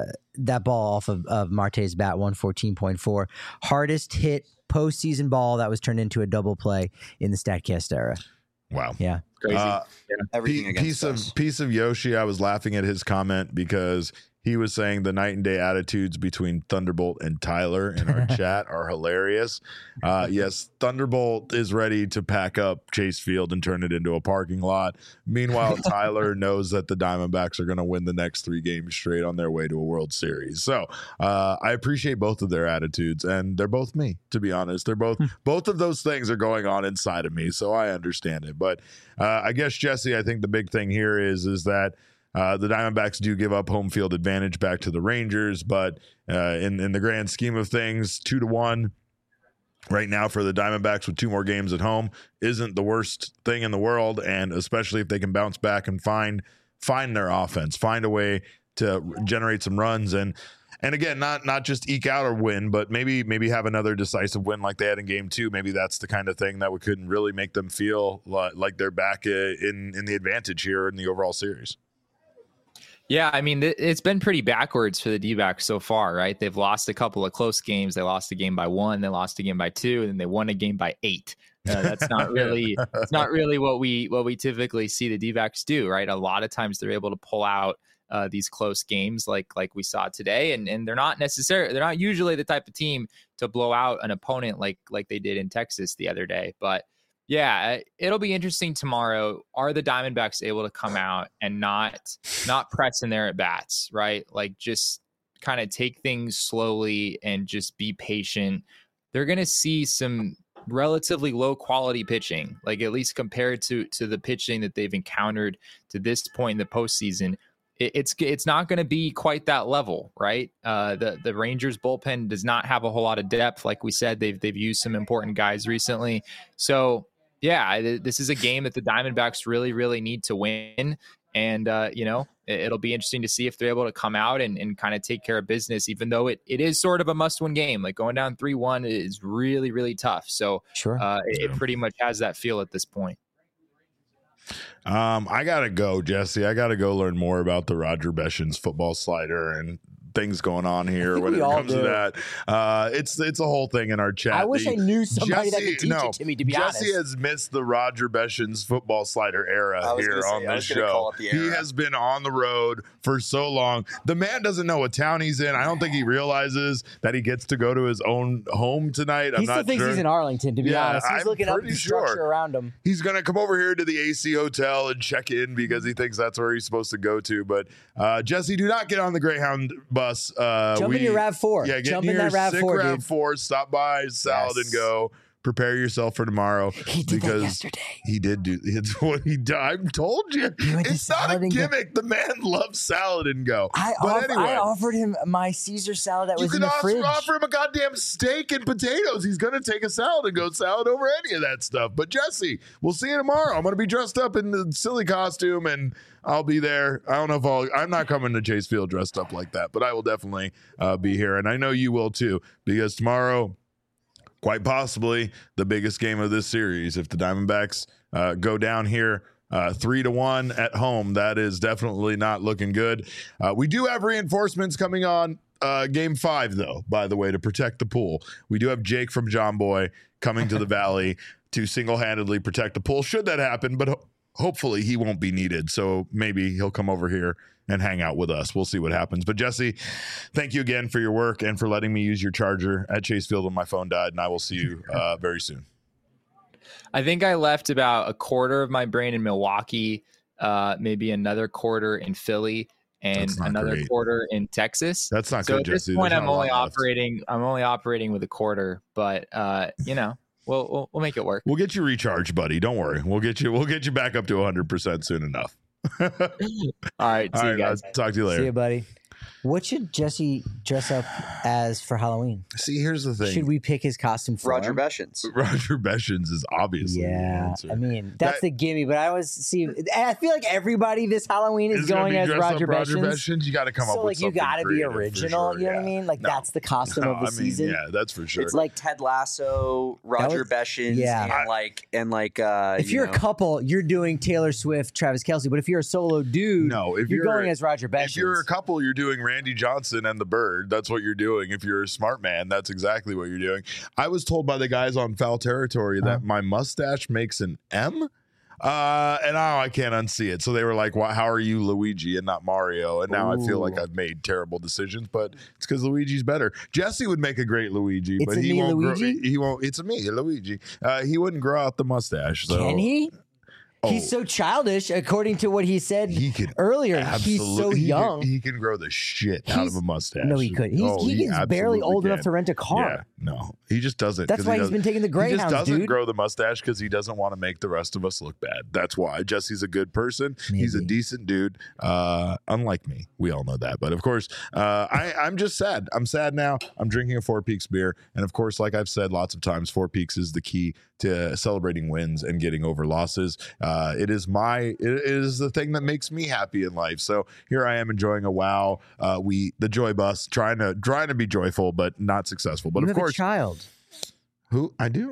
Speaker 2: ball off of Marte's bat, 114.4, hardest hit postseason ball that was turned into a double play in the StatCast era.
Speaker 1: Wow.
Speaker 2: Yeah.
Speaker 8: Crazy.
Speaker 3: Everything
Speaker 1: piece of Yoshi. I was laughing at his comment because he was saying the night and day attitudes between Thunderbolt and Tyler in our chat are hilarious. Yes, Thunderbolt is ready to pack up Chase Field and turn it into a parking lot. Meanwhile, Tyler knows that the Diamondbacks are going to win the next 3 games straight on their way to a World Series. So I appreciate both of their attitudes, and they're both me, to be honest. They're both of those things are going on inside of me, so I understand it. But I guess, Jesse, I think the big thing here is that the Diamondbacks do give up home field advantage back to the Rangers, but in the grand scheme of things, 2-1 right now for the Diamondbacks with 2 more games at home isn't the worst thing in the world, and especially if they can bounce back and find their offense, find a way to generate some runs, and again, not just eke out or win, but maybe have another decisive win like they had in Game 2. Maybe that's the kind of thing that could really make them feel like they're back in the advantage here in the overall series.
Speaker 8: Yeah, I mean, it's been pretty backwards for the D-backs so far, right? They've lost a couple of close games. They lost a game by 1, they lost a game by 2, and then they won a game by 8. That's not really it's not really what we typically see the D-backs do, right? A lot of times they're able to pull out these close games like we saw today, and they're not usually the type of team to blow out an opponent like they did in Texas the other day. But yeah, it'll be interesting tomorrow. Are the Diamondbacks able to come out and not press in their at bats, right? Like just kind of take things slowly and just be patient. They're going to see some relatively low quality pitching, like at least compared to the pitching that they've encountered to this point in the postseason. It's not going to be quite that level, right? The Rangers bullpen does not have a whole lot of depth. Like we said, they've used some important guys recently. So yeah, this is a game that the Diamondbacks really, really need to win. And, it'll be interesting to see if they're able to come out and kind of take care of business, even though it is sort of a must-win game. Like going down 3-1 is really, really tough. So
Speaker 2: sure,
Speaker 8: it pretty much has that feel at this point.
Speaker 1: I got to go, Jesse. I got to go learn more about the Roger Beshins football slider and things going on here when it comes to that. It's a whole thing in our chat.
Speaker 2: I wish I knew somebody that could teach it to me, to be honest.
Speaker 1: Jesse has missed the Roger Beshins football slider era here on this show. He has been on the road for so long. The man doesn't know what town he's in. I don't think he realizes that he gets to go to his own home tonight.
Speaker 2: He still thinks he's in Arlington, to be honest. He's looking up the structure around him.
Speaker 1: He's going to come over here to the AC Hotel and check in because he thinks that's where he's supposed to go to. But Jesse, do not get on the Greyhound bus.
Speaker 2: Jump in your RAV4.
Speaker 1: Yeah,
Speaker 2: Jump in that RAV4,
Speaker 1: RAV4. Stop by Salad and Go. Prepare yourself for tomorrow.
Speaker 2: He did that yesterday.
Speaker 1: He did do. It's what he did. I told you. It's not a gimmick. The man loves Salad and Go.
Speaker 2: I offered him my Caesar salad that was in the fridge. You could
Speaker 1: offer him a goddamn steak and potatoes. He's going to take a Salad and Go salad over any of that stuff. But Jesse, we'll see you tomorrow. I'm going to be dressed up in the silly costume and I'll be there. I don't know if I'm not coming to Chase Field dressed up like that, but I will definitely be here. And I know you will too, because tomorrow, quite possibly the biggest game of this series. If the Diamondbacks go down here 3-1 at home, that is definitely not looking good. We do have reinforcements coming on game 5, though, by the way, to protect the pool. We do have Jake from John Boy coming to the Valley to single-handedly protect the pool, should that happen, but hopefully he won't be needed. So maybe he'll come over here and hang out with us. We'll see what happens. But Jesse, thank you again for your work and for letting me use your charger at Chase Field when my phone died. And I will see you very soon.
Speaker 8: I think I left about a quarter of my brain in Milwaukee, maybe another quarter in Philly, and another quarter in Texas.
Speaker 1: That's not
Speaker 8: so
Speaker 1: good, Jesse.
Speaker 8: At this point, I'm only operating with a quarter, but We'll make it work.
Speaker 1: We'll get you recharged, buddy. Don't worry. We'll get you back up to 100% soon enough.
Speaker 8: All right. See you guys.
Speaker 1: Talk to you later.
Speaker 2: See you, buddy. What should Jesse dress up as for Halloween?
Speaker 1: See, here's the thing.
Speaker 2: Should we pick his costume for
Speaker 3: Roger Beshins?
Speaker 1: Roger Beshins is obviously the answer.
Speaker 2: I mean, that's the gimme, but I always see. I feel like everybody this Halloween is going as Roger Beshins.
Speaker 1: You got to come up with something.
Speaker 2: You got to be original.
Speaker 1: Sure,
Speaker 2: you know what I mean? Like that's the costume of the season.
Speaker 1: Yeah, that's for sure.
Speaker 3: It's like Ted Lasso, Roger Beshins, and like.
Speaker 2: If you're a couple, you're doing Taylor Swift, Travis Kelce. But if you're a solo dude,
Speaker 1: if
Speaker 2: you're going as Roger Beshins.
Speaker 1: If you're a couple, you're doing Randy Johnson and the Bird. That's what you're doing. If you're a smart man, that's exactly what you're doing. I was told by the guys on Foul Territory that my mustache makes an M. And now I can't unsee it. So they were like, well, how are you Luigi and not Mario? And now I feel like I've made terrible decisions, but it's because Luigi's better. Jesse would make a great Luigi, but he won't grow. It's a me, Luigi. He wouldn't grow out the mustache. So.
Speaker 2: Can he? He's so childish, according to what he said earlier. He's so young.
Speaker 1: He can grow the shit out of a mustache.
Speaker 2: No, he could. He's barely old enough to rent a car.
Speaker 1: Yeah, no, he just doesn't.
Speaker 2: That's why he's been taking the Greyhounds,
Speaker 1: He just doesn't grow the mustache because he doesn't want to make the rest of us look bad. That's why. Jesse's a good person. Maybe. He's a decent dude. Unlike me. We all know that. But of course, I'm just sad. I'm sad now. I'm drinking a Four Peaks beer. And of course, like I've said lots of times, Four Peaks is the key to celebrating wins and getting over losses. It is the thing that makes me happy in life. So here I am enjoying a wow. The joy bus, trying to be joyful, but not successful. But
Speaker 2: you
Speaker 1: of course,
Speaker 2: a child.
Speaker 1: Who I do.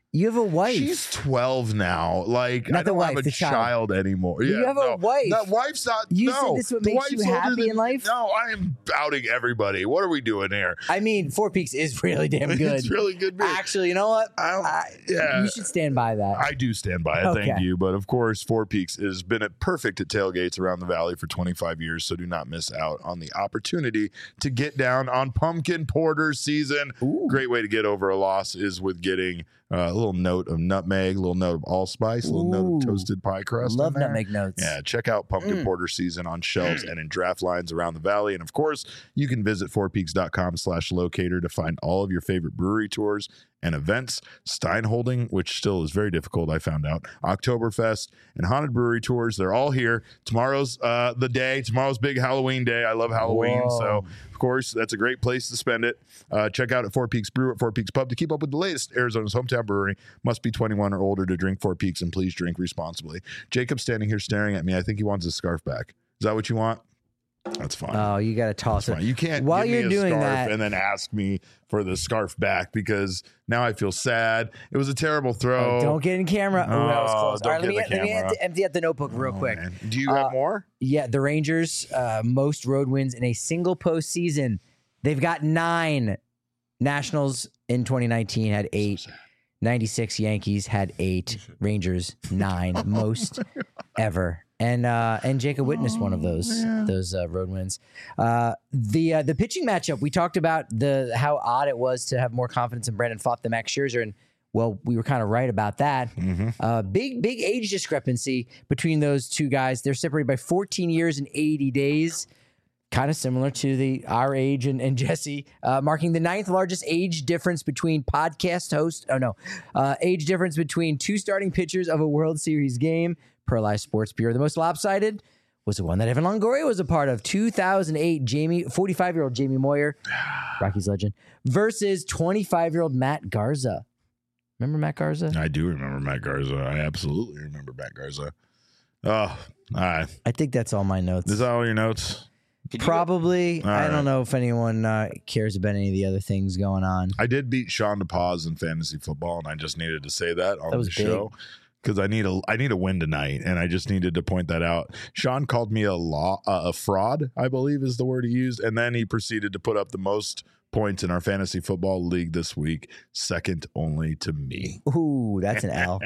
Speaker 2: You have a wife.
Speaker 1: She's 12 now. Like,
Speaker 2: Not
Speaker 1: I don't
Speaker 2: the wife,
Speaker 1: have a
Speaker 2: the
Speaker 1: child anymore.
Speaker 2: You have a wife.
Speaker 1: That wife's not.
Speaker 2: You
Speaker 1: no,
Speaker 2: said this what
Speaker 1: the
Speaker 2: makes you
Speaker 1: wife's older
Speaker 2: happy
Speaker 1: than
Speaker 2: in life?
Speaker 1: No, I am outing everybody. What are we doing here?
Speaker 2: I mean, Four Peaks is really damn good.
Speaker 1: It's really good beer.
Speaker 2: Actually, you know what?
Speaker 1: Yeah.
Speaker 2: You should stand by that.
Speaker 1: I do stand by it.
Speaker 2: Okay.
Speaker 1: Thank you. But of course, Four Peaks has been perfect at tailgates around the valley for 25 years. So do not miss out on the opportunity to get down on pumpkin porter season.
Speaker 2: Ooh.
Speaker 1: Great way to get over a loss is with getting a little note of nutmeg, a little note of allspice, a little note of toasted pie crust.
Speaker 2: Love
Speaker 1: in there.
Speaker 2: nutmeg notes.
Speaker 1: Yeah, check out pumpkin porter season on shelves and in draft lines around the valley. And of course, you can visit fourpeaks.com/locator to find all of your favorite brewery tours and events. Steinholding, which still is very difficult, I found out. Oktoberfest and Haunted Brewery tours. They're all here. Tomorrow's the day. Tomorrow's big Halloween day. I love Halloween.
Speaker 2: Whoa.
Speaker 1: So, of course, that's a great place to spend it. Check out at Four Peaks Brew at Four Peaks Pub to keep up with the latest. Arizona's hometown brewery. Must be 21 or older to drink Four Peaks, and please drink responsibly. Jacob's standing here staring at me. I think he wants his scarf back. Is that what you want? That's fine.
Speaker 2: Oh, you got to toss it.
Speaker 1: You can't
Speaker 2: While
Speaker 1: give
Speaker 2: you're
Speaker 1: me a
Speaker 2: doing
Speaker 1: scarf
Speaker 2: that,
Speaker 1: and then ask me for the scarf back, because now I feel sad. It was a terrible throw.
Speaker 2: don't get in camera. Oh, that was close.
Speaker 1: Don't
Speaker 2: All right,
Speaker 1: get
Speaker 2: let
Speaker 1: in
Speaker 2: me
Speaker 1: the camera.
Speaker 2: empty out the notebook real quick.
Speaker 1: Man. Do you have more?
Speaker 2: Yeah, the Rangers, most road wins in a single postseason. They've got 9. Nationals in 2019 had 8. 96 Yankees had 8. Rangers 9, most ever. And Jacob witnessed one of those road wins. The pitching matchup, we talked about how odd it was to have more confidence in Brandon Pfaadt than Max Scherzer, and well, we were kind of right about that. Big age discrepancy between those two guys. They're separated by 14 years and 80 days. Kind of similar to our age and Jesse, marking the 9th largest age difference between podcast hosts. Age difference between 2 starting pitchers of a World Series game per Live Sports Bureau. The most lopsided was the one that Evan Longoria was a part of. 2008, 45-year-old Jamie Moyer, Rockies legend, versus 25-year-old Matt Garza. Remember Matt Garza?
Speaker 1: I do remember Matt Garza. I absolutely remember Matt Garza. Oh, all right.
Speaker 2: I think that's all my notes.
Speaker 1: Is that all your notes?
Speaker 2: Probably.
Speaker 1: All
Speaker 2: I
Speaker 1: right.
Speaker 2: don't know if anyone cares about any of the other things going on.
Speaker 1: I did beat Sean DePaz in fantasy football, and I just needed to say that on
Speaker 2: That was
Speaker 1: the show because I need a win tonight, and I just needed to point that out. Sean called me a fraud, I believe is the word he used, and then he proceeded to put up the most points in our fantasy football league this week, second only to me.
Speaker 2: Ooh, that's an L.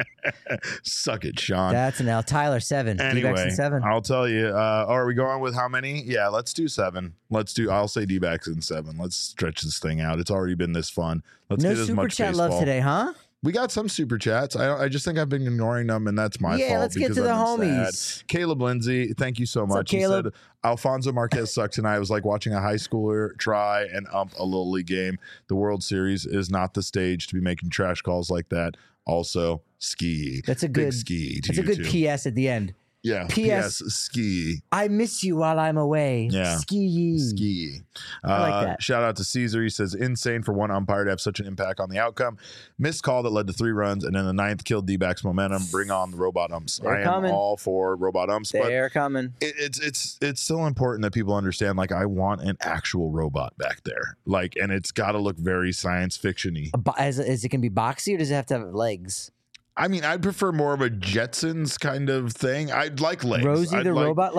Speaker 1: Suck it, Sean.
Speaker 2: That's an L. Tyler, 7.
Speaker 1: Anyway,
Speaker 2: D-backs in 7.
Speaker 1: I'll tell you. Are we going with how many? Yeah, let's do 7. I'll say D-backs in 7. Let's stretch this thing out. It's already been this fun. Let's
Speaker 2: No
Speaker 1: get as
Speaker 2: super
Speaker 1: much
Speaker 2: chat
Speaker 1: baseball.
Speaker 2: love today, huh?
Speaker 1: We got some super chats. I just think I've been ignoring them, and that's my fault.
Speaker 2: Yeah, let's get
Speaker 1: because
Speaker 2: to the
Speaker 1: I've been
Speaker 2: homies.
Speaker 1: sad. Caleb Lindsay, thank you so
Speaker 2: What's up,
Speaker 1: much.
Speaker 2: Caleb?
Speaker 1: He said Alfonso Marquez sucked tonight. It was like watching a high schooler try and ump a little league game. The World Series is not the stage to be making trash calls like that. Also, ski.
Speaker 2: That's a
Speaker 1: Big
Speaker 2: good
Speaker 1: ski. To
Speaker 2: That's a
Speaker 1: you
Speaker 2: good
Speaker 1: too.
Speaker 2: PS at the end.
Speaker 1: Yeah.
Speaker 2: PS.
Speaker 1: Ski.
Speaker 2: I miss you while I'm away.
Speaker 1: Yeah.
Speaker 2: Ski.
Speaker 1: Ski.
Speaker 2: I like that.
Speaker 1: Shout out to Caesar. He says, insane for one umpire to have such an impact on the outcome. Missed call that led to 3 runs, and then the 9th killed D-backs momentum. Bring on the robot umps.
Speaker 2: They're
Speaker 1: I am
Speaker 2: coming.
Speaker 1: all for robot umps, but
Speaker 2: They're coming.
Speaker 1: it's still important that people understand, like, I want an actual robot back there. Like, and it's got to look very science fiction-y.
Speaker 2: Is it going to be boxy or does it have to have legs?
Speaker 1: I mean, I'd prefer more of a Jetsons kind of thing. I'd like legs.
Speaker 2: Rosie
Speaker 1: I'd
Speaker 2: the
Speaker 1: like-
Speaker 2: robot?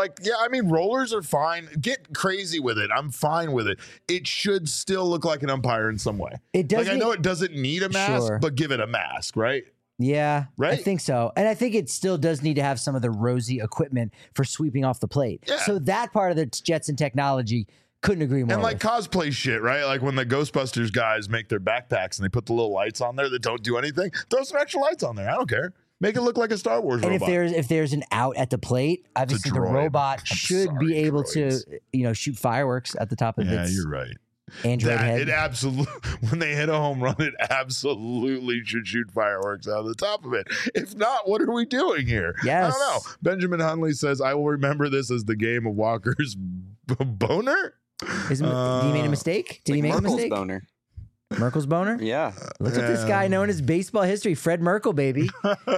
Speaker 1: I mean, rollers are fine. Get crazy with it. I'm fine with it. It should still look like an umpire in some way.
Speaker 2: It does.
Speaker 1: Like, I know it doesn't need a mask,
Speaker 2: Sure.
Speaker 1: but give it a mask, right?
Speaker 2: Yeah, I
Speaker 1: Right?
Speaker 2: think so. And I think it still does need to have some of the Rosie equipment for sweeping off the plate.
Speaker 1: Yeah.
Speaker 2: So that part of the Jetson technology, couldn't agree more.
Speaker 1: And like
Speaker 2: with.
Speaker 1: cosplay shit, right? Like when the Ghostbusters guys make their backpacks and they put the little lights on there that don't do anything, throw some extra lights on there. I don't care. Make it look like a Star Wars
Speaker 2: And
Speaker 1: robot.
Speaker 2: if there's an out at the plate, obviously the
Speaker 1: droid.
Speaker 2: robot
Speaker 1: I'm
Speaker 2: should
Speaker 1: sorry,
Speaker 2: be able
Speaker 1: droids.
Speaker 2: to shoot fireworks at the top of
Speaker 1: Yeah,
Speaker 2: its
Speaker 1: you're right.
Speaker 2: Android head.
Speaker 1: It absolutely, when they hit a home run, it absolutely should shoot fireworks out of the top of it. If not, what are we doing here?
Speaker 2: Yes.
Speaker 1: I don't know. Benjamin Hunley says, I will remember this as the game of Walker's boner.
Speaker 2: Did he make a mistake? Did he make a
Speaker 3: Merkel's
Speaker 2: mistake?
Speaker 3: boner.
Speaker 2: Merkel's boner?
Speaker 3: Yeah.
Speaker 2: Look at this guy known as baseball history, Fred Merkel, baby.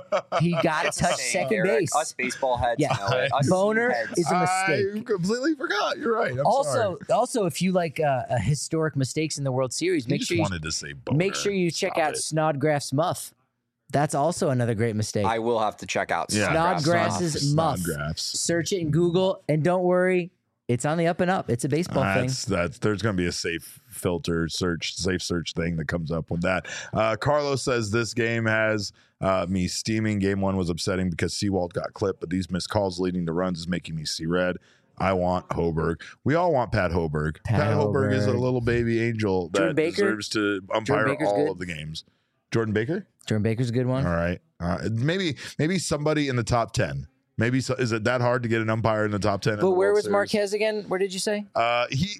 Speaker 2: He got to touch
Speaker 3: Same,
Speaker 2: second
Speaker 3: Eric.
Speaker 2: base.
Speaker 3: Us baseball heads
Speaker 2: Yeah.
Speaker 3: know it. Us
Speaker 2: Boner
Speaker 3: heads.
Speaker 2: is a
Speaker 1: I
Speaker 2: mistake.
Speaker 1: completely forgot. You're right. I'm sorry.
Speaker 2: Also, if you like historic mistakes in the World Series,
Speaker 1: You
Speaker 2: make
Speaker 1: just
Speaker 2: sure
Speaker 1: wanted to say boner.
Speaker 2: make sure you check
Speaker 1: Stop
Speaker 2: out
Speaker 1: it.
Speaker 2: Snodgrass Muff. That's also another great mistake.
Speaker 3: I will have to check out
Speaker 2: Snodgrass's muff. Search it in Google, and don't worry, it's on the up and up. It's a baseball thing.
Speaker 1: There's going to be a safe search thing that comes up with that. Carlos says this game has me steaming. Game 1 was upsetting because Sewald got clipped, but these missed calls leading to runs is making me see red. I want Hoberg. We all want Pat Hoberg. Pat Hoberg is a little baby angel that deserves to umpire all of the games. Jordan Baker?
Speaker 2: Jordan Baker's a good one.
Speaker 1: All right. Maybe somebody in the top 10. Maybe is it that hard to get an umpire in the top 10?
Speaker 2: But where was Marquez again? Where did you say?
Speaker 3: He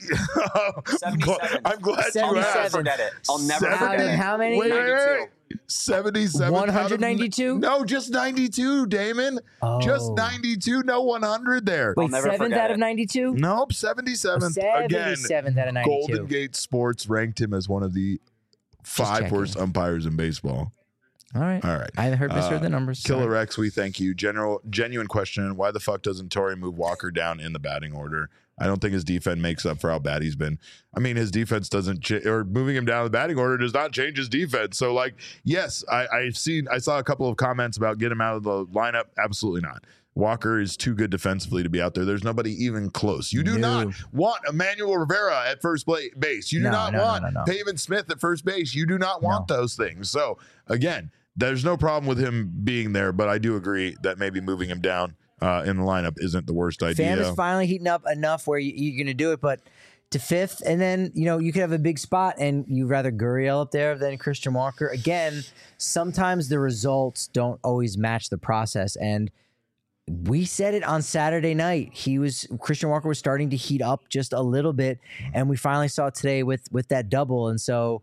Speaker 3: 77.
Speaker 1: I'm glad you asked.
Speaker 3: I'll never forget it.
Speaker 2: How many?
Speaker 1: Wait. 77.
Speaker 2: 192?
Speaker 1: No, just 92, Damon.
Speaker 2: Oh.
Speaker 1: Just 92. No 100 there.
Speaker 2: Wait, 7th out of 92?
Speaker 1: Nope, 77th.
Speaker 2: 77th out of 92.
Speaker 1: Golden Gate Sports ranked him as one of the 5 worst umpires in baseball.
Speaker 2: All right. I misheard the numbers.
Speaker 1: Killer X, we thank you. Genuine question: why the fuck doesn't Torrey move Walker down in the batting order? I don't think his defense makes up for how bad he's been. I mean, his defense doesn't or moving him down the batting order does not change his defense. So, like, yes, I saw a couple of comments about get him out of the lineup. Absolutely not. Walker is too good defensively to be out there. There's nobody even close. You do not want Emmanuel Rivera at first base. You do not want Pavin Smith at first base. You do not want those things. So, again, there's no problem with him being there, but I do agree that maybe moving him down in the lineup isn't the worst idea.
Speaker 2: Pham is finally heating up enough where you're going to do it, but to 5th, and then, you could have a big spot, and you'd rather Gurriel up there than Christian Walker. Again, sometimes the results don't always match the process, and we said it on Saturday night. Christian Walker was starting to heat up just a little bit, and we finally saw it today with that double, and so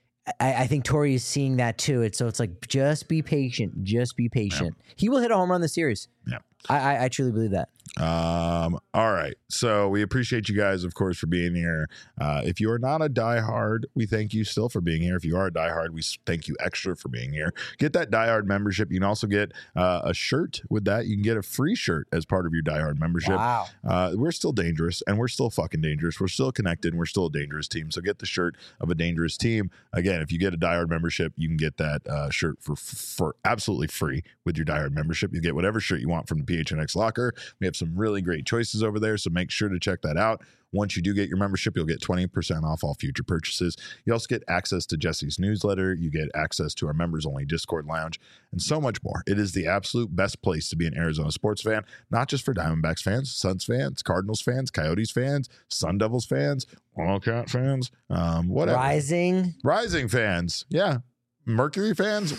Speaker 2: I think Torrey is seeing that too. So it's like, just be patient. Just be patient. Yeah. He will hit a home run this series.
Speaker 1: Yeah.
Speaker 2: I truly believe that.
Speaker 1: All right. So we appreciate you guys, of course, for being here. If you are not a diehard, we thank you still for being here. If you are a diehard, we thank you extra for being here. Get that diehard membership. You can also get a shirt with that. You can get a free shirt as part of your diehard membership.
Speaker 2: Wow.
Speaker 1: We're still dangerous, and we're still fucking dangerous. We're still connected, and we're still a dangerous team. So get the shirt of a dangerous team. Again, if you get a diehard membership, you can get that shirt for absolutely free with your diehard membership. You get whatever shirt you want from the PHNX locker. We have some really great choices over there, so make sure to check that out. Once you do get your membership, you'll get 20% off all future purchases. You also get access to Jesse's newsletter. You get access to our members-only Discord lounge and so much more. It is the absolute best place to be an Arizona sports fan, not just for Diamondbacks fans, Suns fans, Cardinals fans, Coyotes fans, Sun Devils fans, Wildcat fans, whatever. Rising fans. Yeah. Mercury fans,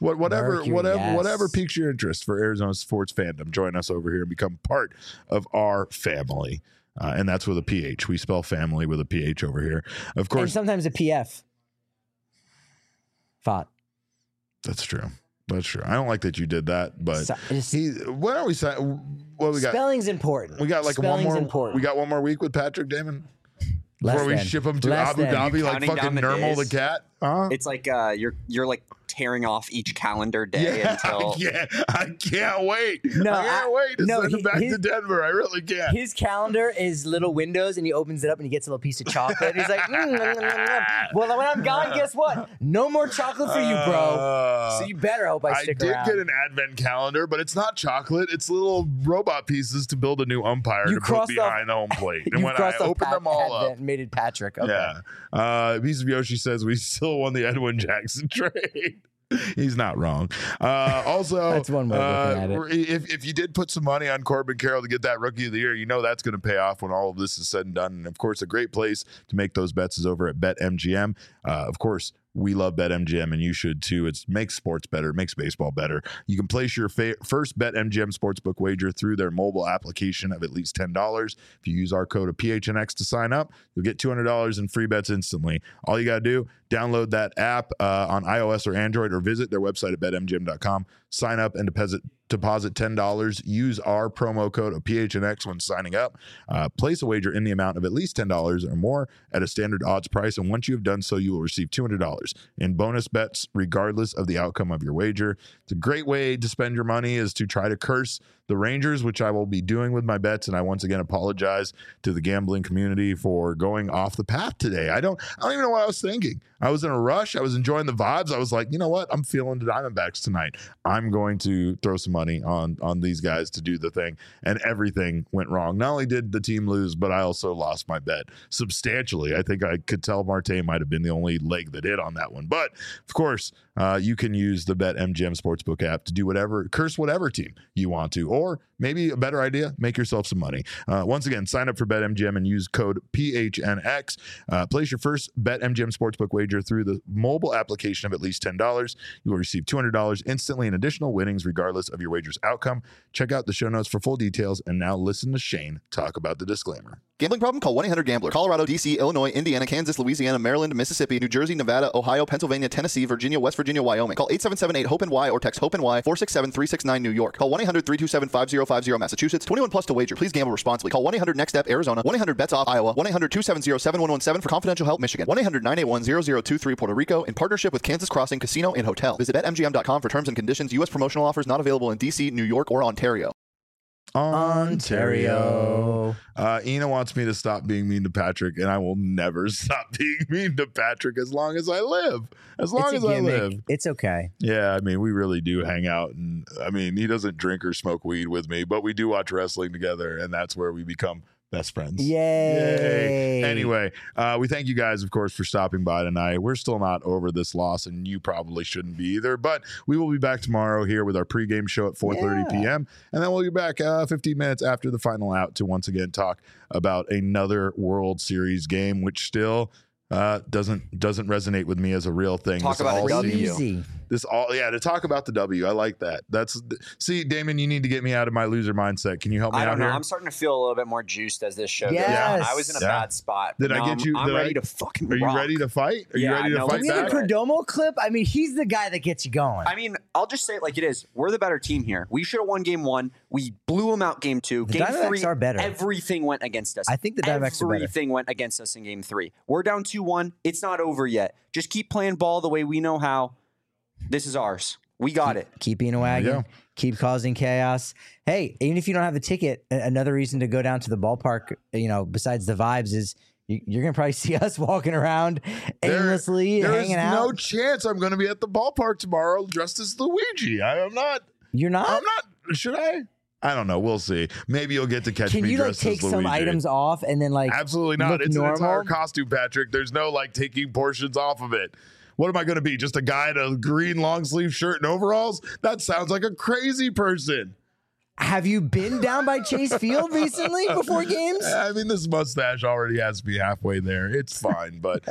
Speaker 1: whatever piques your interest for Arizona sports fandom, join us over here and become part of our family. And that's with a PH. We spell family with a PH over here. Of course.
Speaker 2: And sometimes a PF. Fought.
Speaker 1: That's true. I don't like that you did that, but what are we saying? What we got?
Speaker 2: Spelling's important.
Speaker 1: We got like we got one more week with Patrick Damon. Before we ship him to Abu Dhabi like fucking Nermal the cat.
Speaker 3: It's like you're like tearing off each calendar day until
Speaker 1: I can't wait. I can't wait to send him back to Denver. I really can't.
Speaker 2: His calendar is little windows, and he opens it up and he gets a little piece of chocolate. He's like, well, when I'm gone, guess what? No more chocolate for you, bro. So you better hope I stick around.
Speaker 1: I did get an advent calendar, but it's not chocolate. It's little robot pieces to build a new umpire to put behind the home plate. And when I opened them all up,
Speaker 2: made it Patrick. Okay.
Speaker 1: Yeah. Piece of Yoshi says we still won the Edwin Jackson trade. He's not wrong. Also,
Speaker 2: that's one way of looking at it.
Speaker 1: If you did put some money on Corbin Carroll to get that Rookie of the Year, you know that's going to pay off when all of this is said and done. And of course, a great place to make those bets is over at BetMGM. Of course, we love BetMGM, and you should too. It makes sports better, it makes baseball better. You can place your first BetMGM sportsbook wager through their mobile application of at least $10. If you use our code of PHNX to sign up, you'll get $200 in free bets instantly. All you got to do, download that app on iOS or Android, or visit their website at betmgm.com. Sign up and deposit $10. Use our promo code of PHNX when signing up. Place a wager in the amount of at least $10 or more at a standard odds price, and once you have done so, you will receive $200 in bonus bets regardless of the outcome of your wager. It's a great way to spend your money is to try to curse the Rangers, which I will be doing with my bets. And I once again apologize to the gambling community for going off the path today. I don't even know what I was thinking. I was in a rush. I was enjoying the vibes. I was like, you know what? I'm feeling the Diamondbacks tonight. I'm going to throw some money on these guys to do the thing. And everything went wrong. Not only did the team lose, but I also lost my bet substantially. I think I could tell Marte might have been the only leg that hit on that one. But of course, you can use the BetMGM Sportsbook app to do curse whatever team you want to, or maybe a better idea, make yourself some money. Once again, sign up for BetMGM and use code PHNX. Place your first BetMGM Sportsbook wager through the mobile application of at least $10. You will receive $200 instantly in additional winnings regardless of your wager's outcome. Check out the show notes for full details. And now listen to Shane talk about the disclaimer.
Speaker 9: Gambling problem? Call 1-800-GAMBLER. Colorado, D.C., Illinois, Indiana, Kansas, Louisiana, Maryland, Mississippi, New Jersey, Nevada, Ohio, Pennsylvania, Tennessee, Virginia, West Virginia, Wyoming. Call 877-8-HOPE-NY or text HOPE-NY 467-369 New York. Call 1-800-327-5050 Massachusetts. 21 plus to wager. Please gamble responsibly. Call 1-800-NEXT-STEP Arizona. 1-800-BETS-OFF Iowa. 1-800-270-7117 for confidential help Michigan. 1-800-981-0023 Puerto Rico in partnership with Kansas Crossing Casino and Hotel. Visit BetMGM.com for terms and conditions. U.S. promotional offers not available in D.C., New York, or Ontario.
Speaker 2: Ontario.
Speaker 1: Ina wants me to stop being mean to Patrick, and I will never stop being mean to Patrick as long as I live. As long as I live.
Speaker 2: It's okay.
Speaker 1: Yeah, I mean, we really do hang out. And I mean, he doesn't drink or smoke weed with me, but we do watch wrestling together, and that's where we become best friends.
Speaker 2: Yay.
Speaker 1: Anyway, we thank you guys, of course, for stopping by tonight. We're still not over this loss, and you probably shouldn't be either, but we will be back tomorrow here with our pregame show at 4:30 p.m. And then we'll be back 15 minutes after the final out to once again talk about another World Series game, which still doesn't resonate with me as a real thing.
Speaker 3: Talk about a W.
Speaker 1: To talk about the W. I like that. See, Damon, you need to get me out of my loser mindset. Can you help me out here? I don't know.
Speaker 3: I'm starting to feel a little bit more juiced as this show goes
Speaker 2: Yes.
Speaker 3: on. I was in a bad spot.
Speaker 1: Did I get you?
Speaker 3: I'm ready to fucking
Speaker 1: Are you
Speaker 3: rock.
Speaker 1: ready to fight? Are you ready to fight
Speaker 2: Can we have
Speaker 1: back?
Speaker 2: a Perdomo clip? I mean, he's the guy that gets you going.
Speaker 3: I mean, I'll just say it like it is. We're the better team here. We should have won game 1. We blew them out game 2.
Speaker 2: The
Speaker 3: Game
Speaker 2: Diamondbacks
Speaker 3: 3,
Speaker 2: are better.
Speaker 3: everything went against us.
Speaker 2: I think the Diamondbacks are better.
Speaker 3: Everything went against us in game 3. We're down 2-1. It's not over yet. Just keep playing ball the way we know how. This is ours. We got it.
Speaker 2: Keep being a wagon. Keep causing chaos. Hey, even if you don't have a ticket, another reason to go down to the ballpark, besides the vibes, is you're going to probably see us walking around aimlessly, hanging out.
Speaker 1: There's no chance I'm going to be at the ballpark tomorrow dressed as Luigi. I'm not.
Speaker 2: You're not?
Speaker 1: I'm not. Should I? I don't know. We'll see. Maybe you'll get to catch me dressed as Luigi.
Speaker 2: Can you take some items off and then
Speaker 1: Absolutely not.
Speaker 2: Look
Speaker 1: It's
Speaker 2: normal?
Speaker 1: an entire costume, Patrick. There's no taking portions off of it. What am I going to be? Just a guy in a green long sleeve shirt and overalls? That sounds like a crazy person.
Speaker 2: Have you been down by Chase Field recently before games?
Speaker 1: I mean, this mustache already has me halfway there. It's fine, but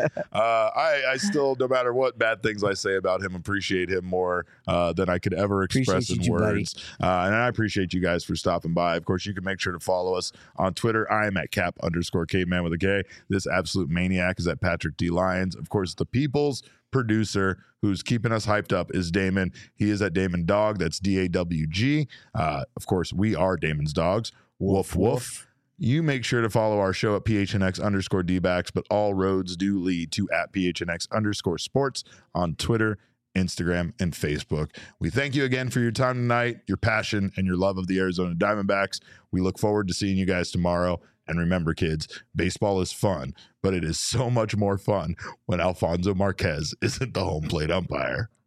Speaker 1: I still, no matter what bad things I say about him, appreciate him more than I could ever express in words. And I appreciate you guys for stopping by. Of course, you can make sure to follow us on Twitter. I am at Cap_Caveman with a K. This absolute maniac is at Patrick D. Lyons. Of course, the people's producer who's keeping us hyped up is Damon. He is at Damon Dog. That's DAWG. Of course, we are Damon's dogs. Woof, woof. You make sure to follow our show at PHNX_DBacks, but all roads do lead to at PHNX_sports on Twitter, Instagram, and Facebook. We thank you again for your time tonight, your passion, and your love of the Arizona Diamondbacks. We look forward to seeing you guys tomorrow. And remember, kids, baseball is fun, but it is so much more fun when Alfonso Marquez isn't the home plate umpire.